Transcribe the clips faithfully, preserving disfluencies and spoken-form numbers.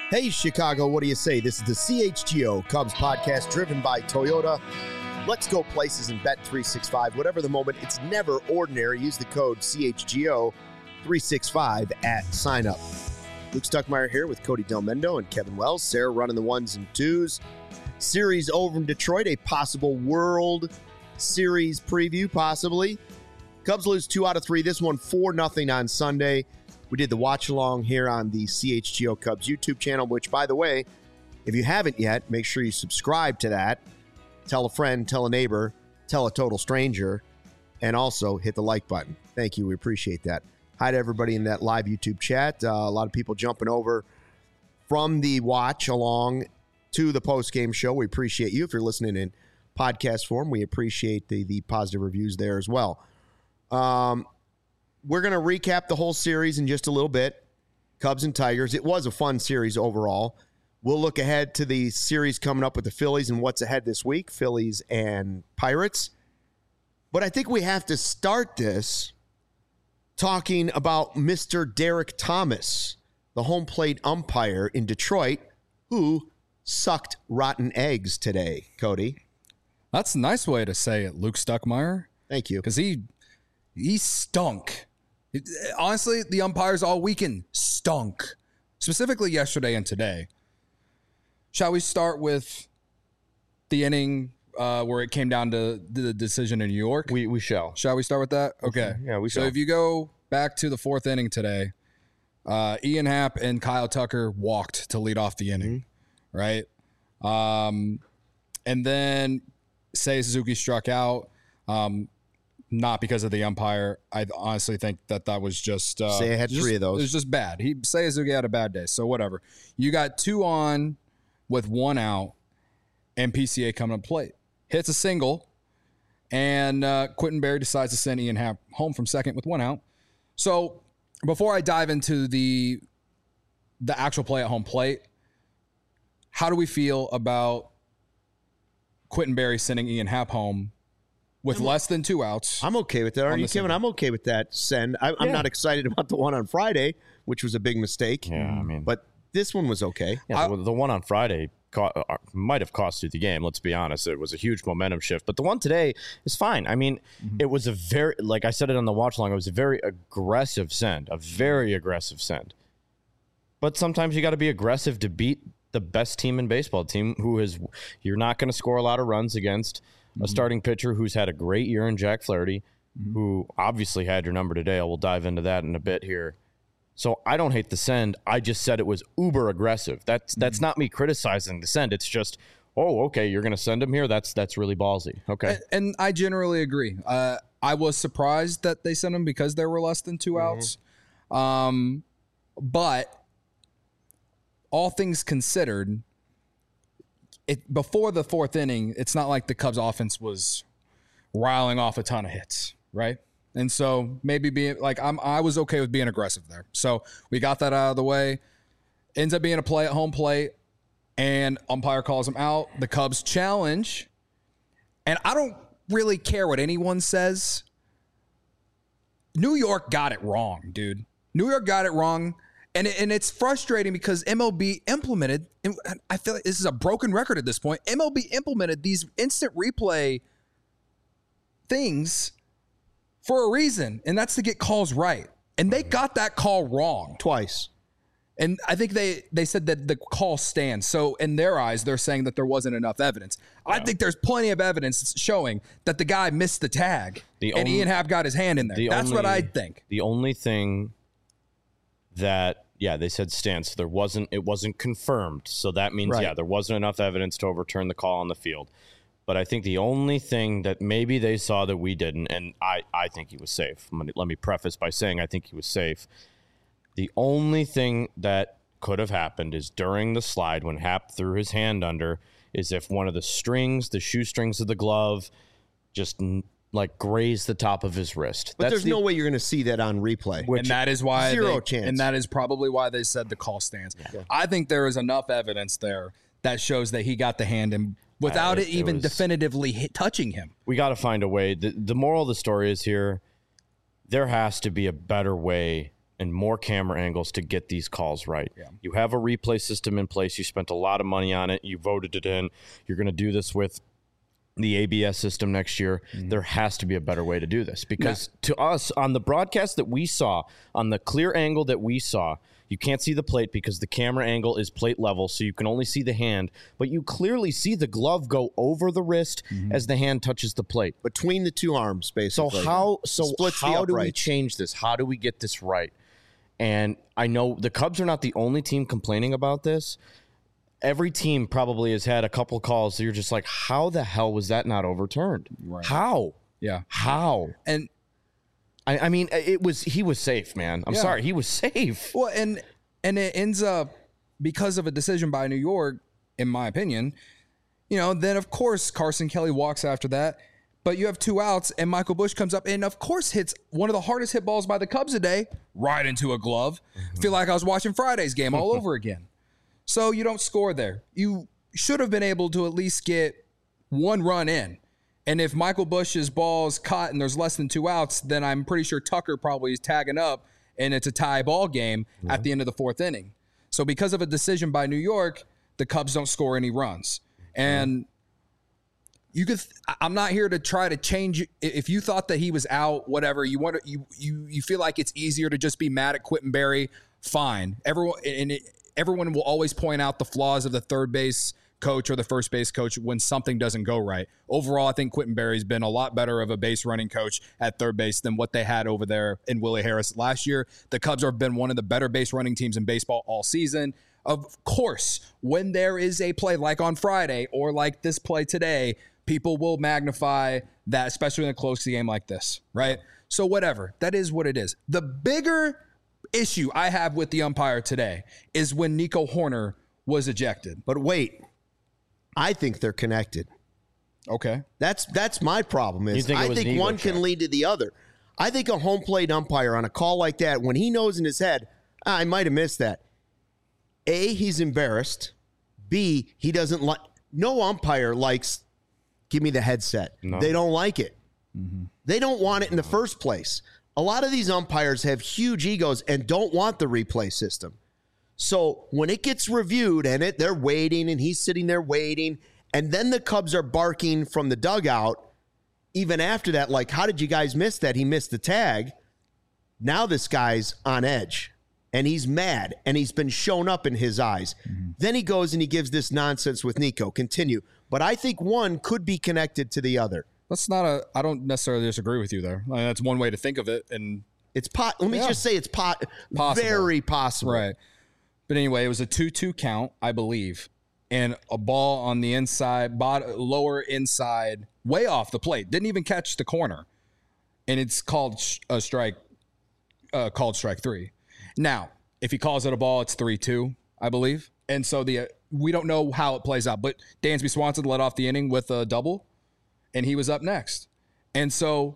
Hey, Chicago, what do you say? This is the C H G O Cubs podcast driven by Toyota. Let's go places and bet three sixty-five. Whatever the moment, it's never ordinary. Use the code C H G O three sixty-five at sign up. Luke Stuckmeyer here with Cody Del Mendo and Kevin Wells. Sarah running the ones and twos. Series over in Detroit, a possible World Series preview, possibly. Cubs lose two out of three. This one four nothing on Sunday. We did the watch along here on the C H G O Cubs YouTube channel, which, by the way, if you haven't yet, make sure you subscribe to that. Tell a friend, tell a neighbor, tell a total stranger, and also hit the like button. Thank you. We appreciate that. Hi to everybody in that live YouTube chat. Uh, a lot of people jumping over from the watch along to the post-game show. We appreciate you. If you're listening in podcast form, we appreciate the, the positive reviews there as well. Um, we're going to recap the whole series in just a little bit. Cubs and Tigers. It was a fun series overall. We'll look ahead to the series coming up with the Phillies and what's ahead this week, Phillies and Pirates. But I think we have to start this talking about Mister Derek Thomas, the home plate umpire in Detroit, who sucked rotten eggs today, Cody. That's a nice way to say it, Luke Stuckmeyer. Thank you. Because he he stunk. It, honestly, the umpires all weekend stunk, specifically yesterday and today. Shall we start with the inning uh, where it came down to the decision in New York? We we shall. Shall we start with that? Okay. Yeah, we shall. So if you go back to the fourth inning today, uh, Ian Happ and Kyle Tucker walked to lead off the inning, mm-hmm. right? Um, and then Seiya Suzuki struck out. Um, Not because of the umpire. I honestly think that that was just... Uh, Seiya had just, three of those. It was just bad. He Seiya Suzuki had a bad day, so whatever. You got two on with one out, and P C A coming to plate. Hits a single, and uh, Quentin Berry decides to send Ian Happ home from second with one out. So before I dive into the the actual play at home plate, how do we feel about Quentin Berry sending Ian Happ home with I'm, less than two outs? I'm okay with that. Are you, Kevin? I'm okay with that send. I, I'm yeah. not excited about the one on Friday, which was a big mistake. Yeah, I mean, but this one was okay. Yeah, I, the, the one on Friday co- uh, might have cost you the game. Let's be honest. It was a huge momentum shift, but the one today is fine. I mean, mm-hmm. it was a very, like I said it on the watch along, it was a very aggressive send, a very aggressive send. But sometimes you got to be aggressive to beat the best team in baseball, team who is, you're not going to score a lot of runs against. A starting pitcher who's had a great year in Jack Flaherty, mm-hmm. who obviously had your number today. We'll dive into that in a bit here. So I don't hate the send. I just said it was uber aggressive. That's that's mm-hmm. not me criticizing the send. It's just, oh, okay, you're going to send him here? That's that's really ballsy. Okay. And, and I generally agree. Uh, I was surprised that they sent him because there were less than two mm-hmm. outs. Um, but all things considered, It, before the fourth inning, it's not like the Cubs offense was riling off a ton of hits, right? And so maybe being like I'm, I was okay with being aggressive there. So we got that out of the way. Ends up being a play at home plate, and umpire calls him out. The Cubs challenge, and I don't really care what anyone says. New York got it wrong, dude. New York got it wrong. And it, and it's frustrating because M L B implemented, and I feel like this is a broken record at this point, M L B implemented these instant replay things for a reason, and that's to get calls right. And they got that call wrong. Twice. And I think they, they said that the call stands. So in their eyes, they're saying that there wasn't enough evidence. Yeah. I think there's plenty of evidence showing that the guy missed the tag, the and only, Ian Happ got his hand in there. The that's only, what I think. The only thing... that yeah they said stands, so there wasn't it wasn't confirmed, so that means right. yeah there wasn't enough evidence to overturn the call on the field. But I think the only thing that maybe they saw that we didn't, and I I think he was safe. Let me, let me preface by saying I think he was safe. The only thing that could have happened is during the slide when Happ threw his hand under, is if one of the strings, the shoestrings of the glove, just like graze the top of his wrist. But That's there's the, no way you're going to see that on replay. And that is why zero they, chance. And that is probably why they said the call stands. Yeah. I think there is enough evidence there that shows that he got the hand in without uh, it, it even it was, definitively hit, touching him. We got to find a way. The, the moral of the story is here, there has to be a better way and more camera angles to get these calls right. Yeah. You have a replay system in place. You spent a lot of money on it. You voted it in. You're going to do this with the A B S system next year. Mm-hmm. There has to be a better way to do this because now, to us on the broadcast that we saw, on the clear angle that we saw, you can't see the plate because the camera angle is plate level, so you can only see the hand, but you clearly see the glove go over the wrist mm-hmm. as the hand touches the plate. Between the two arms, basically. So how so Splits how do we change this? How do we get this right? And I know the Cubs are not the only team complaining about this. Every team probably has had a couple calls that you're just like, how the hell was that not overturned? Right. How? Yeah. How? And I, I mean, it was he was safe, man. I'm yeah. sorry, he was safe. Well, and and it ends up because of a decision by New York, in my opinion. You know, then of course Carson Kelly walks after that, but you have two outs, and Michael Busch comes up and of course hits one of the hardest hit balls by the Cubs today, right into a glove. Mm-hmm. Feel like I was watching Friday's game all over again. So you don't score there. You should have been able to at least get one run in. And if Michael Busch's ball's caught and there's less than two outs, then I'm pretty sure Tucker probably is tagging up and it's a tie ball game mm-hmm. at the end of the fourth inning. So because of a decision by New York, the Cubs don't score any runs. And you could, I'm not here to try to change. If you thought that he was out, whatever, you want to, you, you, you feel like it's easier to just be mad at Quittenberry, fine. Everyone, and it, Everyone will always point out the flaws of the third base coach or the first base coach when something doesn't go right. Overall, I think Quittenberry's been a lot better of a base running coach at third base than what they had over there in Willie Harris last year. The Cubs have been one of the better base running teams in baseball all season. Of course, when there is a play like on Friday or like this play today, people will magnify that, especially in a close game like this, right? So whatever, that is what it is. The bigger issue I have with the umpire today is when Nico Hoerner was ejected. But wait, I think they're connected. Okay. That's that's my problem is think I think one check. can lead to the other. I think a home plate umpire on a call like that, when he knows in his head, ah, I might have missed that. A, he's embarrassed. B, he doesn't like, no umpire likes, give me the headset. No. They don't like it. Mm-hmm. They don't want it in the first place. A lot of these umpires have huge egos and don't want the replay system. So when it gets reviewed and it they're waiting and he's sitting there waiting, and then the Cubs are barking from the dugout, even after that, like, how did you guys miss that? He missed the tag. Now this guy's on edge and he's mad and he's been shown up in his eyes. Mm-hmm. Then he goes and he gives this nonsense with Nico. Continue. But I think one could be connected to the other. That's not a, I don't necessarily disagree with you there. I mean, that's one way to think of it. And it's pot. Let me yeah. just say it's pot. Possible. Very possible. Right. But anyway, it was a two two count, I believe. And a ball on the inside, bot, lower inside, way off the plate. Didn't even catch the corner. And it's called a strike, uh, called strike three. Now, if he calls it a ball, it's three two, I believe. And so the uh, we don't know how it plays out. But Dansby Swanson led off the inning with a double. And he was up next. And so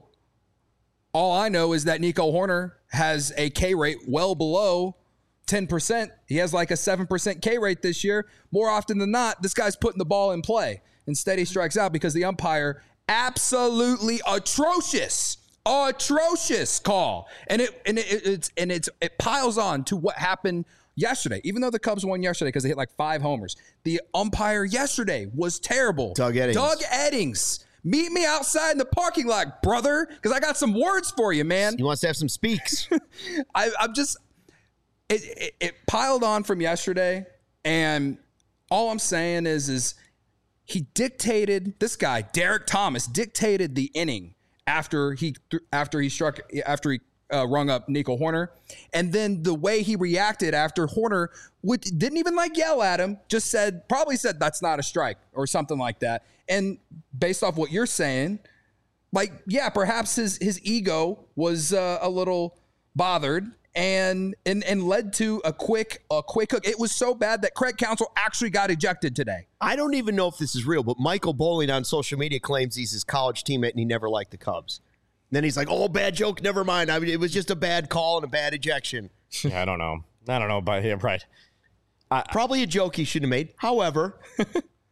all I know is that Nico Hoerner has a K rate well below ten percent. He has like a seven percent K rate this year. More often than not, this guy's putting the ball in play. Instead, he strikes out because the umpire, absolutely atrocious, atrocious call. And it and it, it's and it's it piles on to what happened yesterday. Even though the Cubs won yesterday because they hit like five homers, the umpire yesterday was terrible. Doug Eddings. Doug Eddings. Meet me outside in the parking lot, brother, because I got some words for you, man. He wants to have some speaks. I, I'm just, it, it, it piled on from yesterday, and all I'm saying is, is he dictated, this guy, Derek Thomas, dictated the inning after he after he struck, after he uh, rung up Nico Hoerner, and then the way he reacted after Hoerner would, didn't even like yell at him, just said, probably said that's not a strike or something like that. And based off what you're saying, like, yeah, perhaps his his ego was uh, a little bothered and and and led to a quick a quick hook. It was so bad that Craig Counsell actually got ejected today. I don't even know if this is real, but Michael Bowling on social media claims he's his college teammate and he never liked the Cubs. And then he's like, "Oh, bad joke. Never mind. I mean, it was just a bad call and a bad ejection." Yeah, I don't know. I don't know about him. Right. I, Probably a joke he shouldn't have made. However.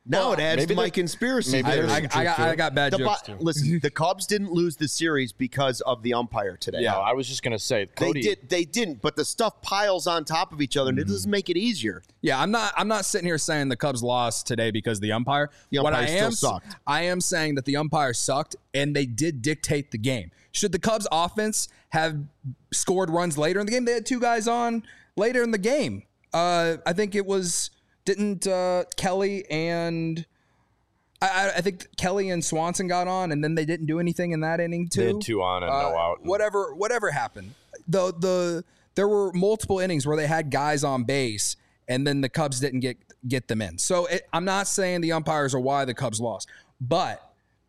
Now Well, it adds to my there- conspiracy maybe I, theory. there's I, some I, got, truth to I it. got bad The jokes bu- too. listen, the Cubs didn't lose the series because of the umpire today. No, I was just gonna say, Cody. They did. They didn't. But the stuff piles on top of each other, and it doesn't make it easier. Yeah, I'm not. I'm not sitting here saying the Cubs lost today because of the umpire. The what I umpire still am, sucked. I am saying that the umpire sucked, and they did dictate the game. Should the Cubs offense have scored runs later in the game? They had two guys on later in the game. Uh, I think it was didn't uh, Kelly and I, I think Kelly and Swanson got on, and then they didn't do anything in that inning too. They had two on and no Uh, out. Whatever, whatever happened. The the there were multiple innings where they had guys on base, and then the Cubs didn't get get them in. So it, I'm not saying the umpires are why the Cubs lost, but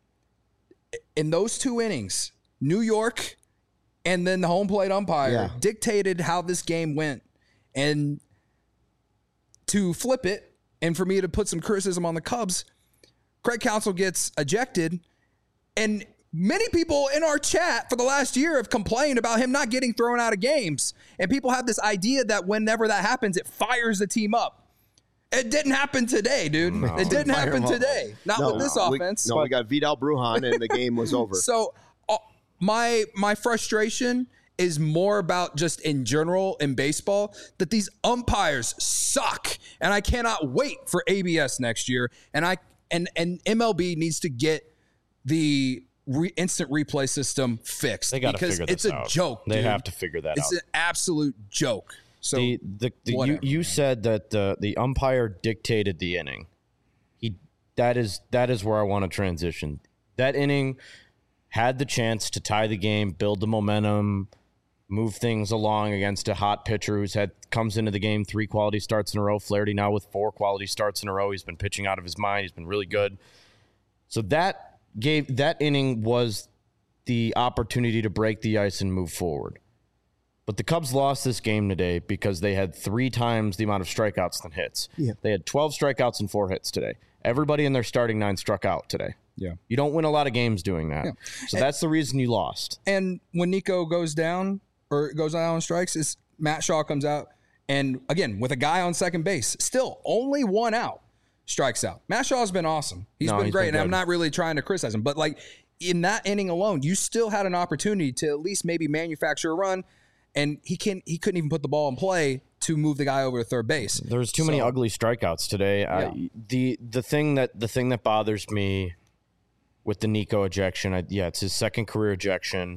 in those two innings, New York and then the home plate umpire Yeah. dictated how this game went, and to flip it, and for me to put some criticism on the Cubs, Craig Counsell gets ejected, and many people in our chat for the last year have complained about him not getting thrown out of games. And people have this idea that whenever that happens, it fires the team up. It didn't happen today, dude. No. It didn't Fire happen him up. today. Not No, with this we- offense. no, we got Vidal Brujan, and the game was over. So uh, my my frustration is more about just in general in baseball that these umpires suck, and I cannot wait for A B S next year. And I and and M L B needs to get the re, instant replay system fixed They got to because figure this it's a out. joke. They dude. have to figure that It's out. an absolute joke. So the the, the you, whatever, you man. said that the the umpire dictated the inning. He that is that is where I want to transition. That inning had the chance to tie the game, build the momentum, move things along against a hot pitcher who's had comes into the game three quality starts in a row. Flaherty now with four quality starts in a row. He's been pitching out of his mind. He's been really good. So that gave that inning was the opportunity to break the ice and move forward. But the Cubs lost this game today because they had three times the amount of strikeouts than hits. Yeah. They had twelve strikeouts and four hits today. Everybody in their starting nine struck out today. yeah. You don't win a lot of games doing that. Yeah. So that's the reason you lost. And when Nico goes down or goes down on strikes, is Matt Shaw comes out and again with a guy on second base, still only one out, strikes out. Matt Shaw's been awesome. He's No, been he's great, been and I'm good. not really trying to criticize him, but like in that inning alone, you still had an opportunity to at least maybe manufacture a run, and he can he couldn't even put the ball in play to move the guy over to third base. There's too many So- ugly strikeouts today. Yeah. I, the the thing that the thing that bothers me with the Nico ejection, I, yeah, it's his second career ejection,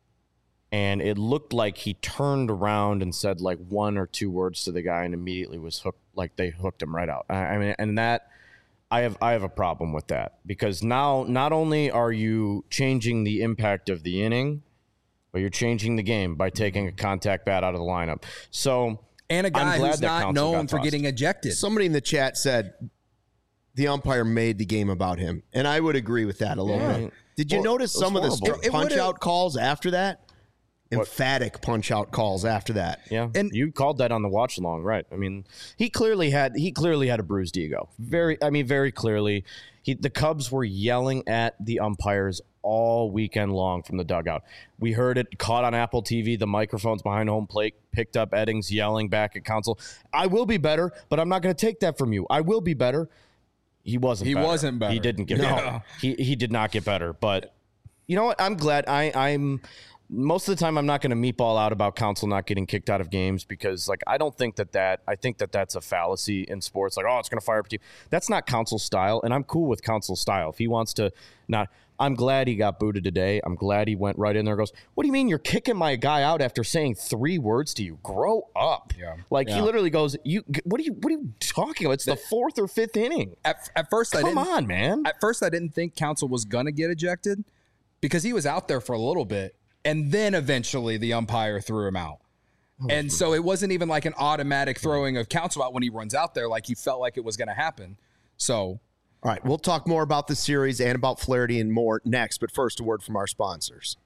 and it looked like he turned around and said like one or two words to the guy, and immediately was hooked. Like they hooked him right out. I, I mean, and that I have I have a problem with that because now not only are you changing the impact of the inning, but you're changing the game by taking a contact bat out of the lineup. So. And a guy I'm glad who's that not Counsell known got for tossed. getting ejected. Somebody in the chat said the umpire made the game about him, and I would agree with that a little Yeah. bit. Did you Well, notice it was some of the horrible. It- it punch would've- out calls after that? Emphatic punch out calls after that. Yeah, And- you called that on the watch along, right? I mean, he clearly had he clearly had a bruised ego. Very, I mean, very clearly. He, the Cubs were yelling at the umpires all weekend long from the dugout. We heard it caught on Apple T V. The microphones behind home plate picked up Eddings yelling back at Counsell. I will be better, but I'm not going to take that from you. I will be better. He wasn't. He better. wasn't better. He didn't get No. better. He he did not get better. But you know what? I'm glad. I I'm. Most of the time, I'm not going to meatball out about Counsell not getting kicked out of games because, like, I don't think that that I think that that's a fallacy in sports. Like, oh, it's going to fire up a team. That's not Counsell's style, and I'm cool with Counsell's style. If he wants to not, I'm glad he got booted today. I'm glad he went right in there. And goes, what do you mean you're kicking my guy out after saying three words to you? Grow up. Yeah. Like Yeah. he literally goes, you. What are you? What are you talking about? It's the fourth or fifth inning. At, at first, I Come didn't. on, man. At first, I didn't think Counsell was gonna get ejected because he was out there for a little bit, and then eventually the umpire threw him out. And so it wasn't even like an automatic throwing of Counsell out when he runs out there, like he felt like it was going to happen. So All right, we'll talk more about the series and about Flaherty and more next, but first, a word from our sponsors.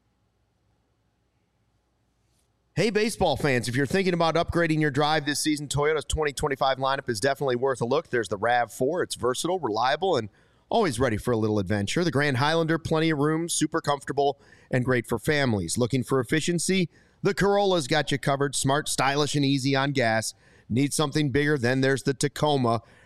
Hey, baseball fans, if you're thinking about upgrading your drive this season, Toyota's twenty twenty-five lineup is definitely worth a look. There's the RAV four. It's versatile, reliable, and always ready for a little adventure. The Grand Highlander, plenty of room, super comfortable, and great for families. Looking for efficiency? The Corolla's got you covered. Smart, stylish, and easy on gas. Need something bigger? Then there's the Tacoma.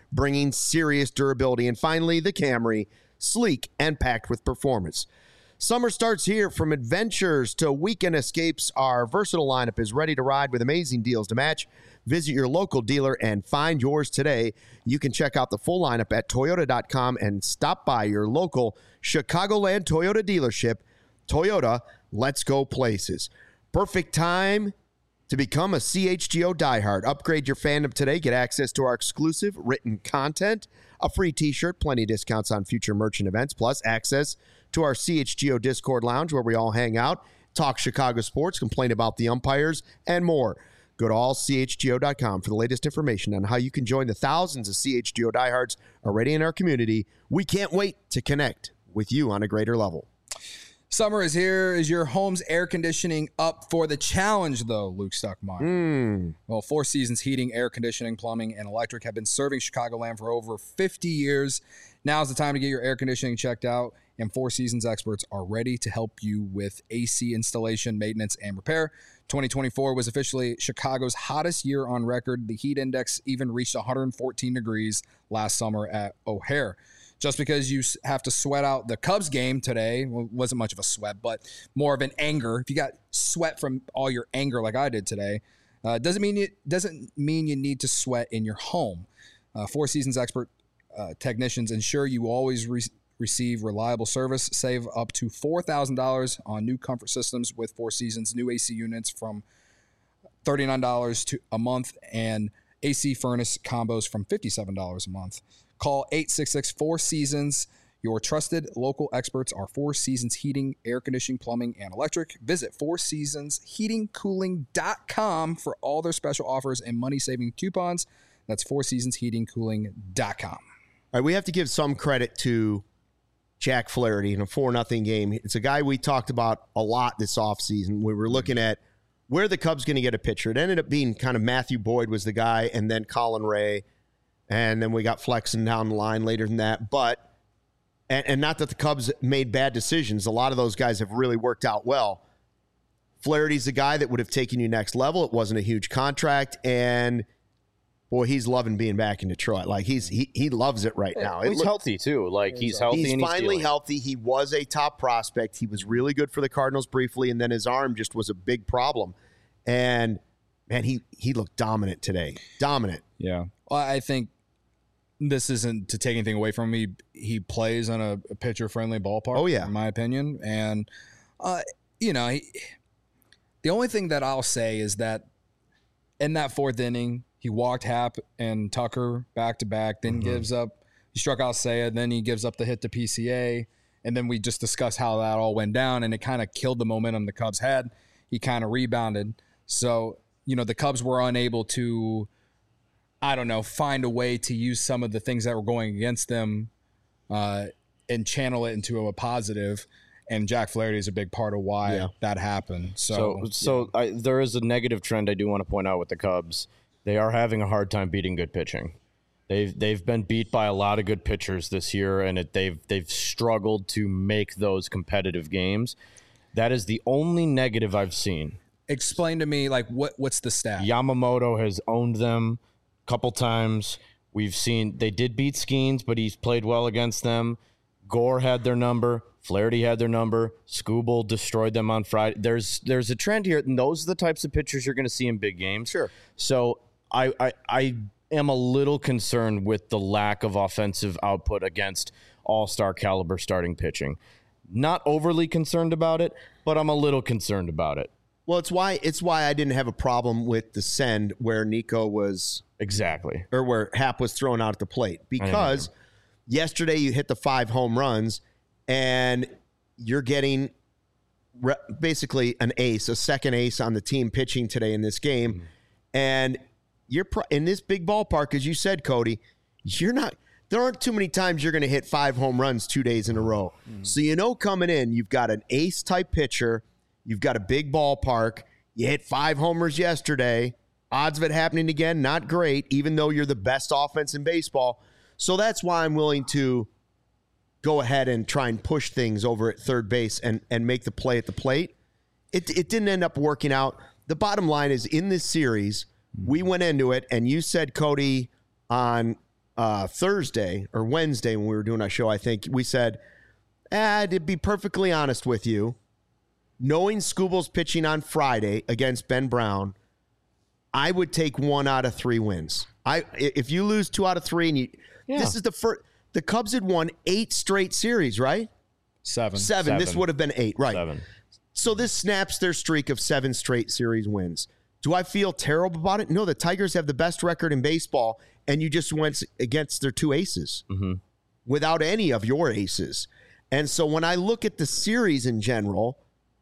bringing serious durability. And finally, the Camry, sleek and packed with performance. Summer starts here. From adventures to weekend escapes, our versatile lineup is ready to ride with amazing deals to match. Visit your local dealer and find yours today. You can check out the full lineup at Toyota dot com and stop by your local Chicagoland Toyota dealership. Toyota, let's go places. Perfect time to become a C H G O diehard. Upgrade your fandom today. Get access to our exclusive written content, a free t-shirt, plenty of discounts on future merchant events, plus access to our C H G O Discord lounge where we all hang out, talk Chicago sports, complain about the umpires, and more. Go to all C H G O dot com for the latest information on how you can join the thousands of C H G O diehards already in our community. We can't wait to connect with you on a greater level. Summer is here. Is your home's air conditioning up for the challenge, though, Luke Stuckmeyer? Mm. Well, Four Seasons Heating, Air Conditioning, Plumbing, and Electric have been serving Chicagoland for over fifty years. Now's the time to get your air conditioning checked out, and Four Seasons experts are ready to help you with A C installation, maintenance, and repair. twenty twenty-four was officially Chicago's hottest year on record. The heat index even reached one hundred fourteen degrees last summer at O'Hare. Just because you have to sweat out the Cubs game today, well, wasn't much of a sweat, but more of an anger. If you got sweat from all your anger like I did today, uh, doesn't mean you doesn't mean you need to sweat in your home. Uh, Four Seasons expert uh, technicians ensure you always re- receive reliable service. Save up to four thousand dollars on new comfort systems with Four Seasons new A C units from thirty-nine dollars to a month, and A C furnace combos from fifty-seven dollars a month. Call eight six six, four seasons. Your trusted local experts are Four Seasons Heating, Air Conditioning, Plumbing, and Electric. Visit four seasons heating cooling dot com for all their special offers and money-saving coupons. That's four seasons heating cooling dot com. All right, we have to give some credit to Jack Flaherty in a four nothing game. It's a guy we talked about a lot this offseason. We were looking at where the Cubs going to get a pitcher. It ended up being kind of Matthew Boyd was the guy, and then Colin Ray. And then we got Flexen down the line later than that. But, and, and not that the Cubs made bad decisions. A lot of those guys have really worked out well. Flaherty's the guy that would have taken you next level. It wasn't a huge contract. And, boy, he's loving being back in Detroit. Like, he's he he loves it right now. It he's look, healthy, too. Like, he's healthy he's and he's finally dealing. healthy. He was a top prospect. He was really good for the Cardinals briefly, and then his arm just was a big problem. And, man, he, he looked dominant today. Dominant. Yeah. Well, I think this isn't to take anything away from him. He, he plays on a, a pitcher-friendly ballpark, oh, yeah. in my opinion. And, uh, you know, he, the only thing that I'll say is that in that fourth inning, he walked Happ and Tucker back-to-back, then mm-hmm. gives up – he struck out Seiya, then he gives up the hit to P C A, and then we just discussed how that all went down, and it kind of killed the momentum the Cubs had. He kind of rebounded. So, you know, the Cubs were unable to – I don't know, find a way to use some of the things that were going against them uh, and channel it into a positive. And Jack Flaherty is a big part of why yeah. that happened. So, so, so I, there is a negative trend I do want to point out with the Cubs. They are having a hard time beating good pitching. They've they've been beat by a lot of good pitchers this year, and it, they've they've struggled to make those competitive games. That is the only negative I've seen. Explain to me, like, what what's the stat? Yamamoto has owned them couple times. We've seen they did beat Skeens, but he's played well against them. Gore had their number. Flaherty had their number. Skubal destroyed them on Friday. There's there's a trend here, and those are the types of pitchers you're going to see in big games. Sure. So I, I I am a little concerned with the lack of offensive output against all-star caliber starting pitching. Not overly concerned about it, but I'm a little concerned about it. Well, it's why it's why I didn't have a problem with the send where Nico was exactly or where Happ was thrown out at the plate, because yesterday you hit the five home runs and you're getting re- basically an ace, a second ace on the team pitching today in this game, mm-hmm. and you're pro- in this big ballpark, as you said, Cody. You're not. There aren't too many times you're going to hit five home runs two days in a row. Mm-hmm. So you know, coming in, you've got an ace type pitcher. You've got a big ballpark. You hit five homers yesterday. Odds of it happening again, not great, even though you're the best offense in baseball. So that's why I'm willing to go ahead and try and push things over at third base and, and make the play at the plate. It, it didn't end up working out. The bottom line is, in this series, we went into it, and you said, Cody, on uh, Thursday or Wednesday when we were doing our show, I think we said, eh, to be perfectly honest with you, knowing Skubal's pitching on Friday against Ben Brown, I would take one out of three wins. I if you lose two out of three, and you, yeah. this is the first. The Cubs had won eight straight series, right? Seven. Seven. Seven. This would have been eight, right? Seven. So this snaps their streak of seven straight series wins. Do I feel terrible about it? No, the Tigers have the best record in baseball, and you just went against their two aces mm-hmm. without any of your aces. And so when I look at the series in general,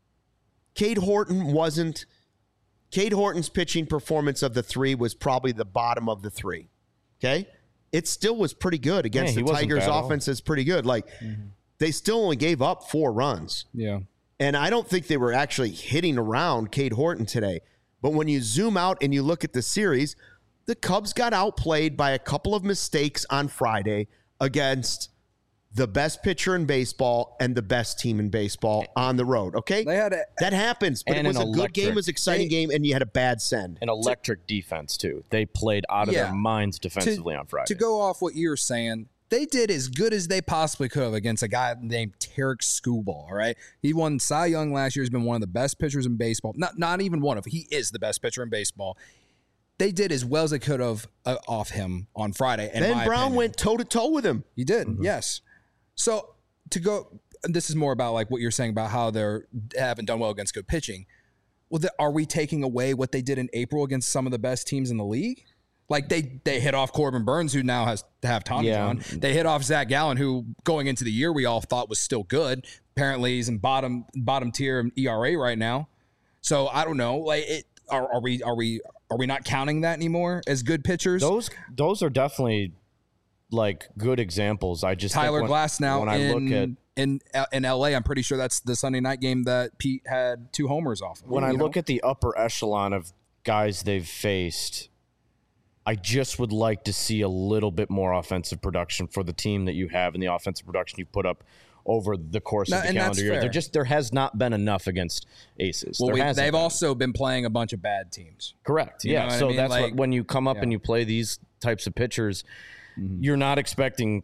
Cade Horton wasn't – Cade Horton's pitching performance of the three was probably the bottom of the three, okay? It still was pretty good against yeah, the Tigers' offense is pretty good. Like, mm-hmm. they still only gave up four runs. Yeah. And I don't think they were actually hitting around Cade Horton today. But when you zoom out and you look at the series, the Cubs got outplayed by a couple of mistakes on Friday against the best pitcher in baseball and the best team in baseball on the road. Okay, they had a, that happens, but it was a electric, good game, it was an exciting they, game, and you had a bad send. An electric defense too. They played out of yeah, their minds defensively to, on Friday. To go off what you're saying, they did as good as they possibly could have against a guy named Tarik Skubal, all right? He won Cy Young last year. He's been one of the best pitchers in baseball. Not not even one of. He is the best pitcher in baseball. They did as well as they could have uh, off him on Friday. Ben Brown opinion. went toe-to-toe with him. He did, mm-hmm. yes. So to go, this is more about like what you're saying about how they're haven't done well against good pitching. Well, the, are we taking away what they did in April against some of the best teams in the league? Like they they hit off Corbin Burns, who now has to have Tommy yeah. on. They hit off Zach Gallen, who going into the year we all thought was still good. Apparently he's in bottom bottom tier in E R A right now. So I don't know. Like it, are, are we are we are we not counting that anymore as good pitchers? Those those are definitely like good examples. I just Tyler think when, Glass now when in, I look at in in L A, I'm pretty sure that's the Sunday night game that Pete had two homers off of. When I know? look at the upper echelon of guys they've faced, I just would like to see a little bit more offensive production for the team that you have and the offensive production you put up over the course no, of the calendar year. There just there has not been enough against aces. Well, we, they've been. also been playing a bunch of bad teams. Correct. You yeah. So I mean? that's like, what when you come up yeah. and you play these types of pitchers, mm-hmm. you're not expecting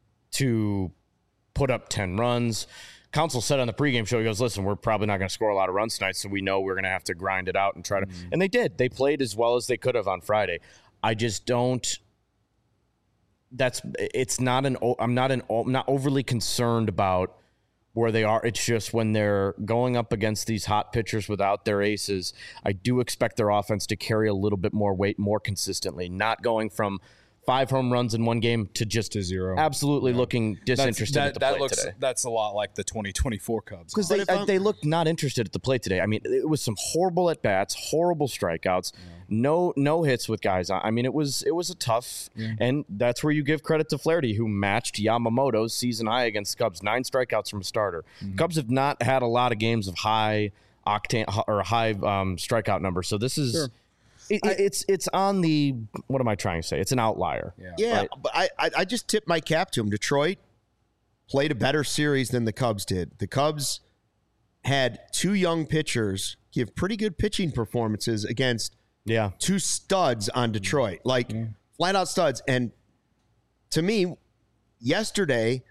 to put up ten runs. Council said on the pregame show, he goes, listen, we're probably not going to score a lot of runs tonight, so we know we're going to have to grind it out and try to mm-hmm. – and they did. They played as well as they could have on Friday. I just don't – that's – it's not an – I'm not an I'm not overly concerned about where they are. It's just when they're going up against these hot pitchers without their aces, I do expect their offense to carry a little bit more weight more consistently, not going from – five home runs in one game to just to zero. Absolutely yeah. looking disinterested that, at the that plate looks, today. That's a lot like the twenty twenty-four Cubs. Because they, uh, they looked not interested at the plate today. I mean, it was some horrible at-bats, horrible strikeouts, yeah. no no hits with guys. I mean, it was it was a tough, yeah. and that's where you give credit to Flaherty, who matched Yamamoto's season high against Cubs, nine strikeouts from a starter. Mm-hmm. Cubs have not had a lot of games of high octane or high um, strikeout numbers, so this is... Sure. It, I, it's it's on the what am I trying to say? It's an outlier. Yeah, yeah right? But I I just tip my cap to him. Detroit played a better series than the Cubs did. The Cubs had two young pitchers give pretty good pitching performances against yeah two studs on Detroit, like yeah. flat out studs. And to me, yesterday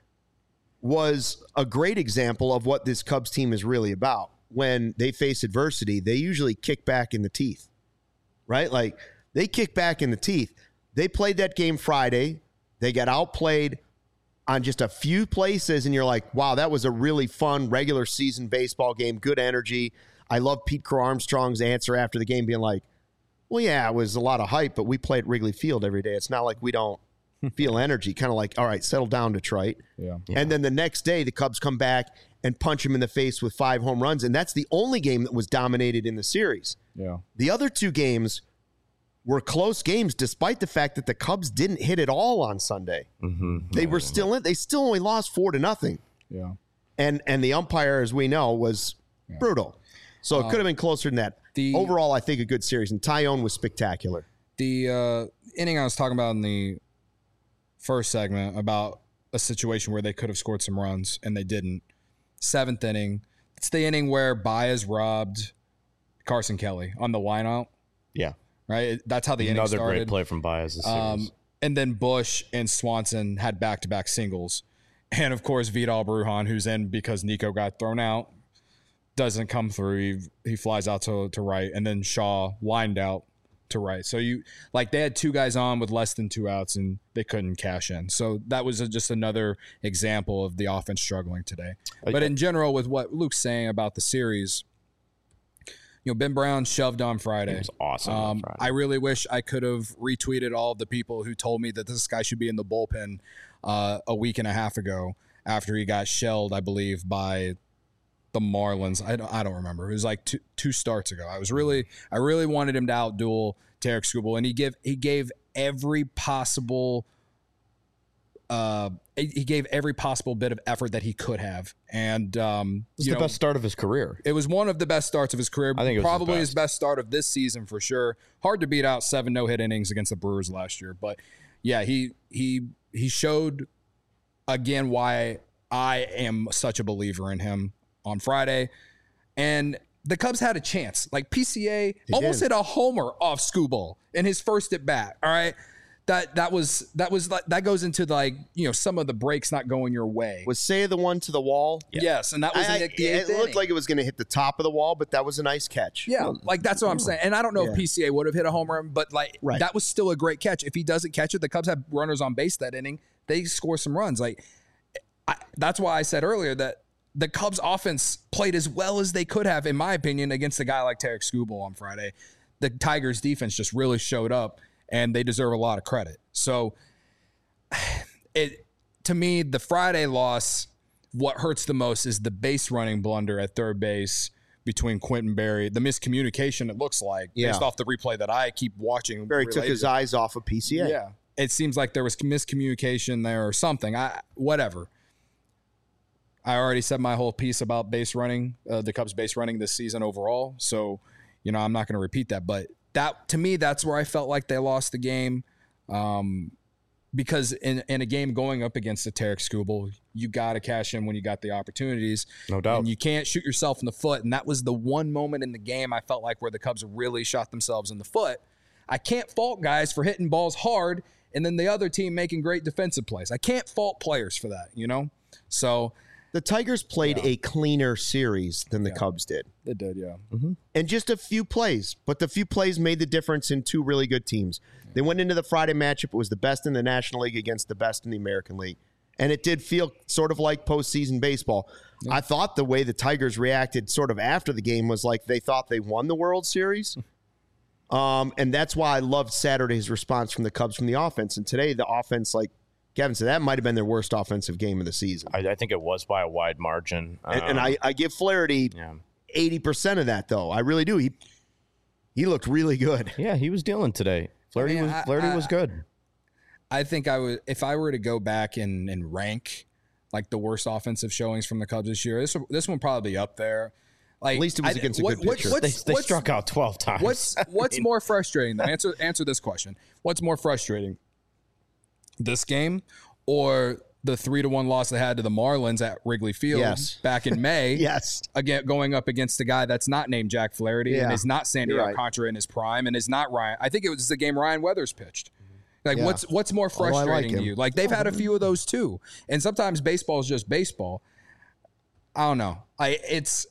was a great example of what this Cubs team is really about. When they face adversity, they usually kick back in the teeth. Right? Like, they kick back in the teeth. They played that game Friday. They got outplayed on just a few places, and you're like, wow, that was a really fun regular season baseball game. Good energy. I love Pete Crow Armstrong's answer after the game being like, well, yeah, it was a lot of hype, but we play at Wrigley Field every day. It's not like we don't feel energy. Kind of like, all right, settle down, Detroit. Yeah. Yeah. And then the next day, the Cubs come back and punch him in the face with five home runs, and that's the only game that was dominated in the series. Yeah. The other two games were close games, despite the fact that the Cubs didn't hit at all on Sunday. Mm-hmm. They were still in. They still only lost four to nothing. Yeah. And and the umpire, as we know, was yeah. brutal. So um, it could have been closer than that. The, Overall, I think a good series, and Tyone was spectacular. The uh, inning I was talking about in the first segment about a situation where they could have scored some runs and they didn't. Seventh inning. It's the inning where Baez robbed Carson Kelly on the wineout. Yeah. Right? That's how the inning started. Another great play from Baez this series. Um, and then Bush and Swanson had back-to-back singles. And, of course, Vidal Brujan, who's in because Nico got thrown out, doesn't come through. He, he flies out to, to right, and then Shaw lined out to right. So, you like they had two guys on with less than two outs, and they couldn't cash in. So, that was a, just another example of the offense struggling today. But in general, with what Luke's saying about the series, you know, Ben Brown shoved on Friday. It was awesome Um, on Friday. I really wish I could have retweeted all of the people who told me that this guy should be in the bullpen uh, a week and a half ago after he got shelled, I believe, by the Marlins. I don't, I don't remember. It was like two, two starts ago. I was really, I really wanted him to outduel Tarik Skubal, and he give he gave every possible. Uh, he gave every possible bit of effort that he could have, and um, It's you the know, best start of his career. it was one of the best starts of his career. I think it was probably his his best. best start of this season for sure. Hard to beat out seven no-hit innings against the Brewers last year, but yeah, he he he showed again why I am such a believer in him on Friday, and the Cubs had a chance. Like P C A almost did. hit a homer off Skubal in his first at bat. All right. That that was that was like that goes into like you know some of the breaks not going your way. Was Say the one to the wall? Yes, and that was I- in I- the, the it eighth looked inning. like it was going to hit the top of the wall, but that was a nice catch. Yeah, like that's what I'm saying. And I don't know Yeah. if P C A would have hit a home run, but like Right. that was still a great catch. If he doesn't catch it, the Cubs have runners on base that inning. They score some runs. Like I, that's why I said earlier that the Cubs offense played as well as they could have, in my opinion, against a guy like Tarik Skubal on Friday. The Tigers defense just really showed up, and they deserve a lot of credit. So it to me, the Friday loss, what hurts the most is the base running blunder at third base between Quentin Berry, the miscommunication it looks like, Yeah. based off the replay that I keep watching. Barry took related his to- eyes off of P C A. Yeah. It seems like there was miscommunication there or something. I whatever. I already said my whole piece about base running, uh, the Cubs base running this season overall. So, you know, I'm not going to repeat that. But that to me, that's where I felt like they lost the game. Um, because in, in a game going up against the Tarik Skubal, you got to cash in when you got the opportunities. No doubt. And you can't shoot yourself in the foot. And that was the one moment in the game I felt like where the Cubs really shot themselves in the foot. I can't fault guys for hitting balls hard and then the other team making great defensive plays. I can't fault players for that, you know? So The Tigers played Yeah. a cleaner series than the Yeah. Cubs did. they did, yeah. And just a few plays, but the few plays made the difference in two really good teams. They went into the Friday matchup. It was the best in the National League against the best in the American League. And it did feel sort of like postseason baseball. I thought the way the Tigers reacted sort of after the game was like they thought they won the World Series. Um, and that's why I loved Saturday's response from the Cubs from the offense. And today, the offense, like Kevin said, that might have been their worst offensive game of the season. I, I think it was by a wide margin. And, and Um, I, I give Flaherty yeah. eighty percent of that, though. I really do. He he looked really good. Yeah, he was dealing today. Flaherty mean, was I- Flaherty I- was good. I think I would if I were to go back and, and rank like the worst offensive showings from the Cubs this year, this this one would probably be up there. Like At least it was I- against a what- good what- pitcher. what's- They, they what's- struck out twelve times. What's what's more frustrating? Then answer answer this question. What's more frustrating? This game or the three to one loss they had to the Marlins at Wrigley Field Yes. back in May? Yes. Again, going up against a guy that's not named Jack Flaherty Yeah. and is not Sandy You're right. Alcantara in his prime and is not Ryan. I think it was the game Ryan Weathers pitched. Like Yeah. what's what's more Although I like frustrating to him. you? Like they've had a few of those too. And sometimes baseball is just baseball. I don't know. I it's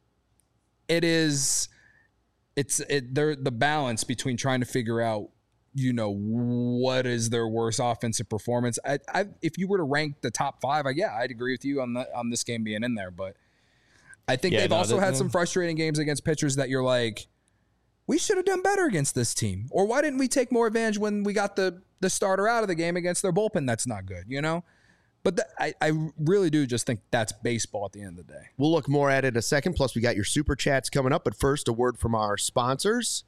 it is it's it they're the balance between trying to figure out, you know, what is their worst offensive performance. I, I if you were to rank the top five, I, yeah, I'd agree with you on the on this game being in there. But I think Yeah, they've no, also they- had some frustrating games against pitchers that you're like, we should have done better against this team. Or why didn't we take more advantage when we got the the starter out of the game against their bullpen that's not good, you know? But th- I, I really do just think that's baseball at the end of the day. We'll look more at it in a second. Plus, we got your super chats coming up. But first, a word from our sponsors.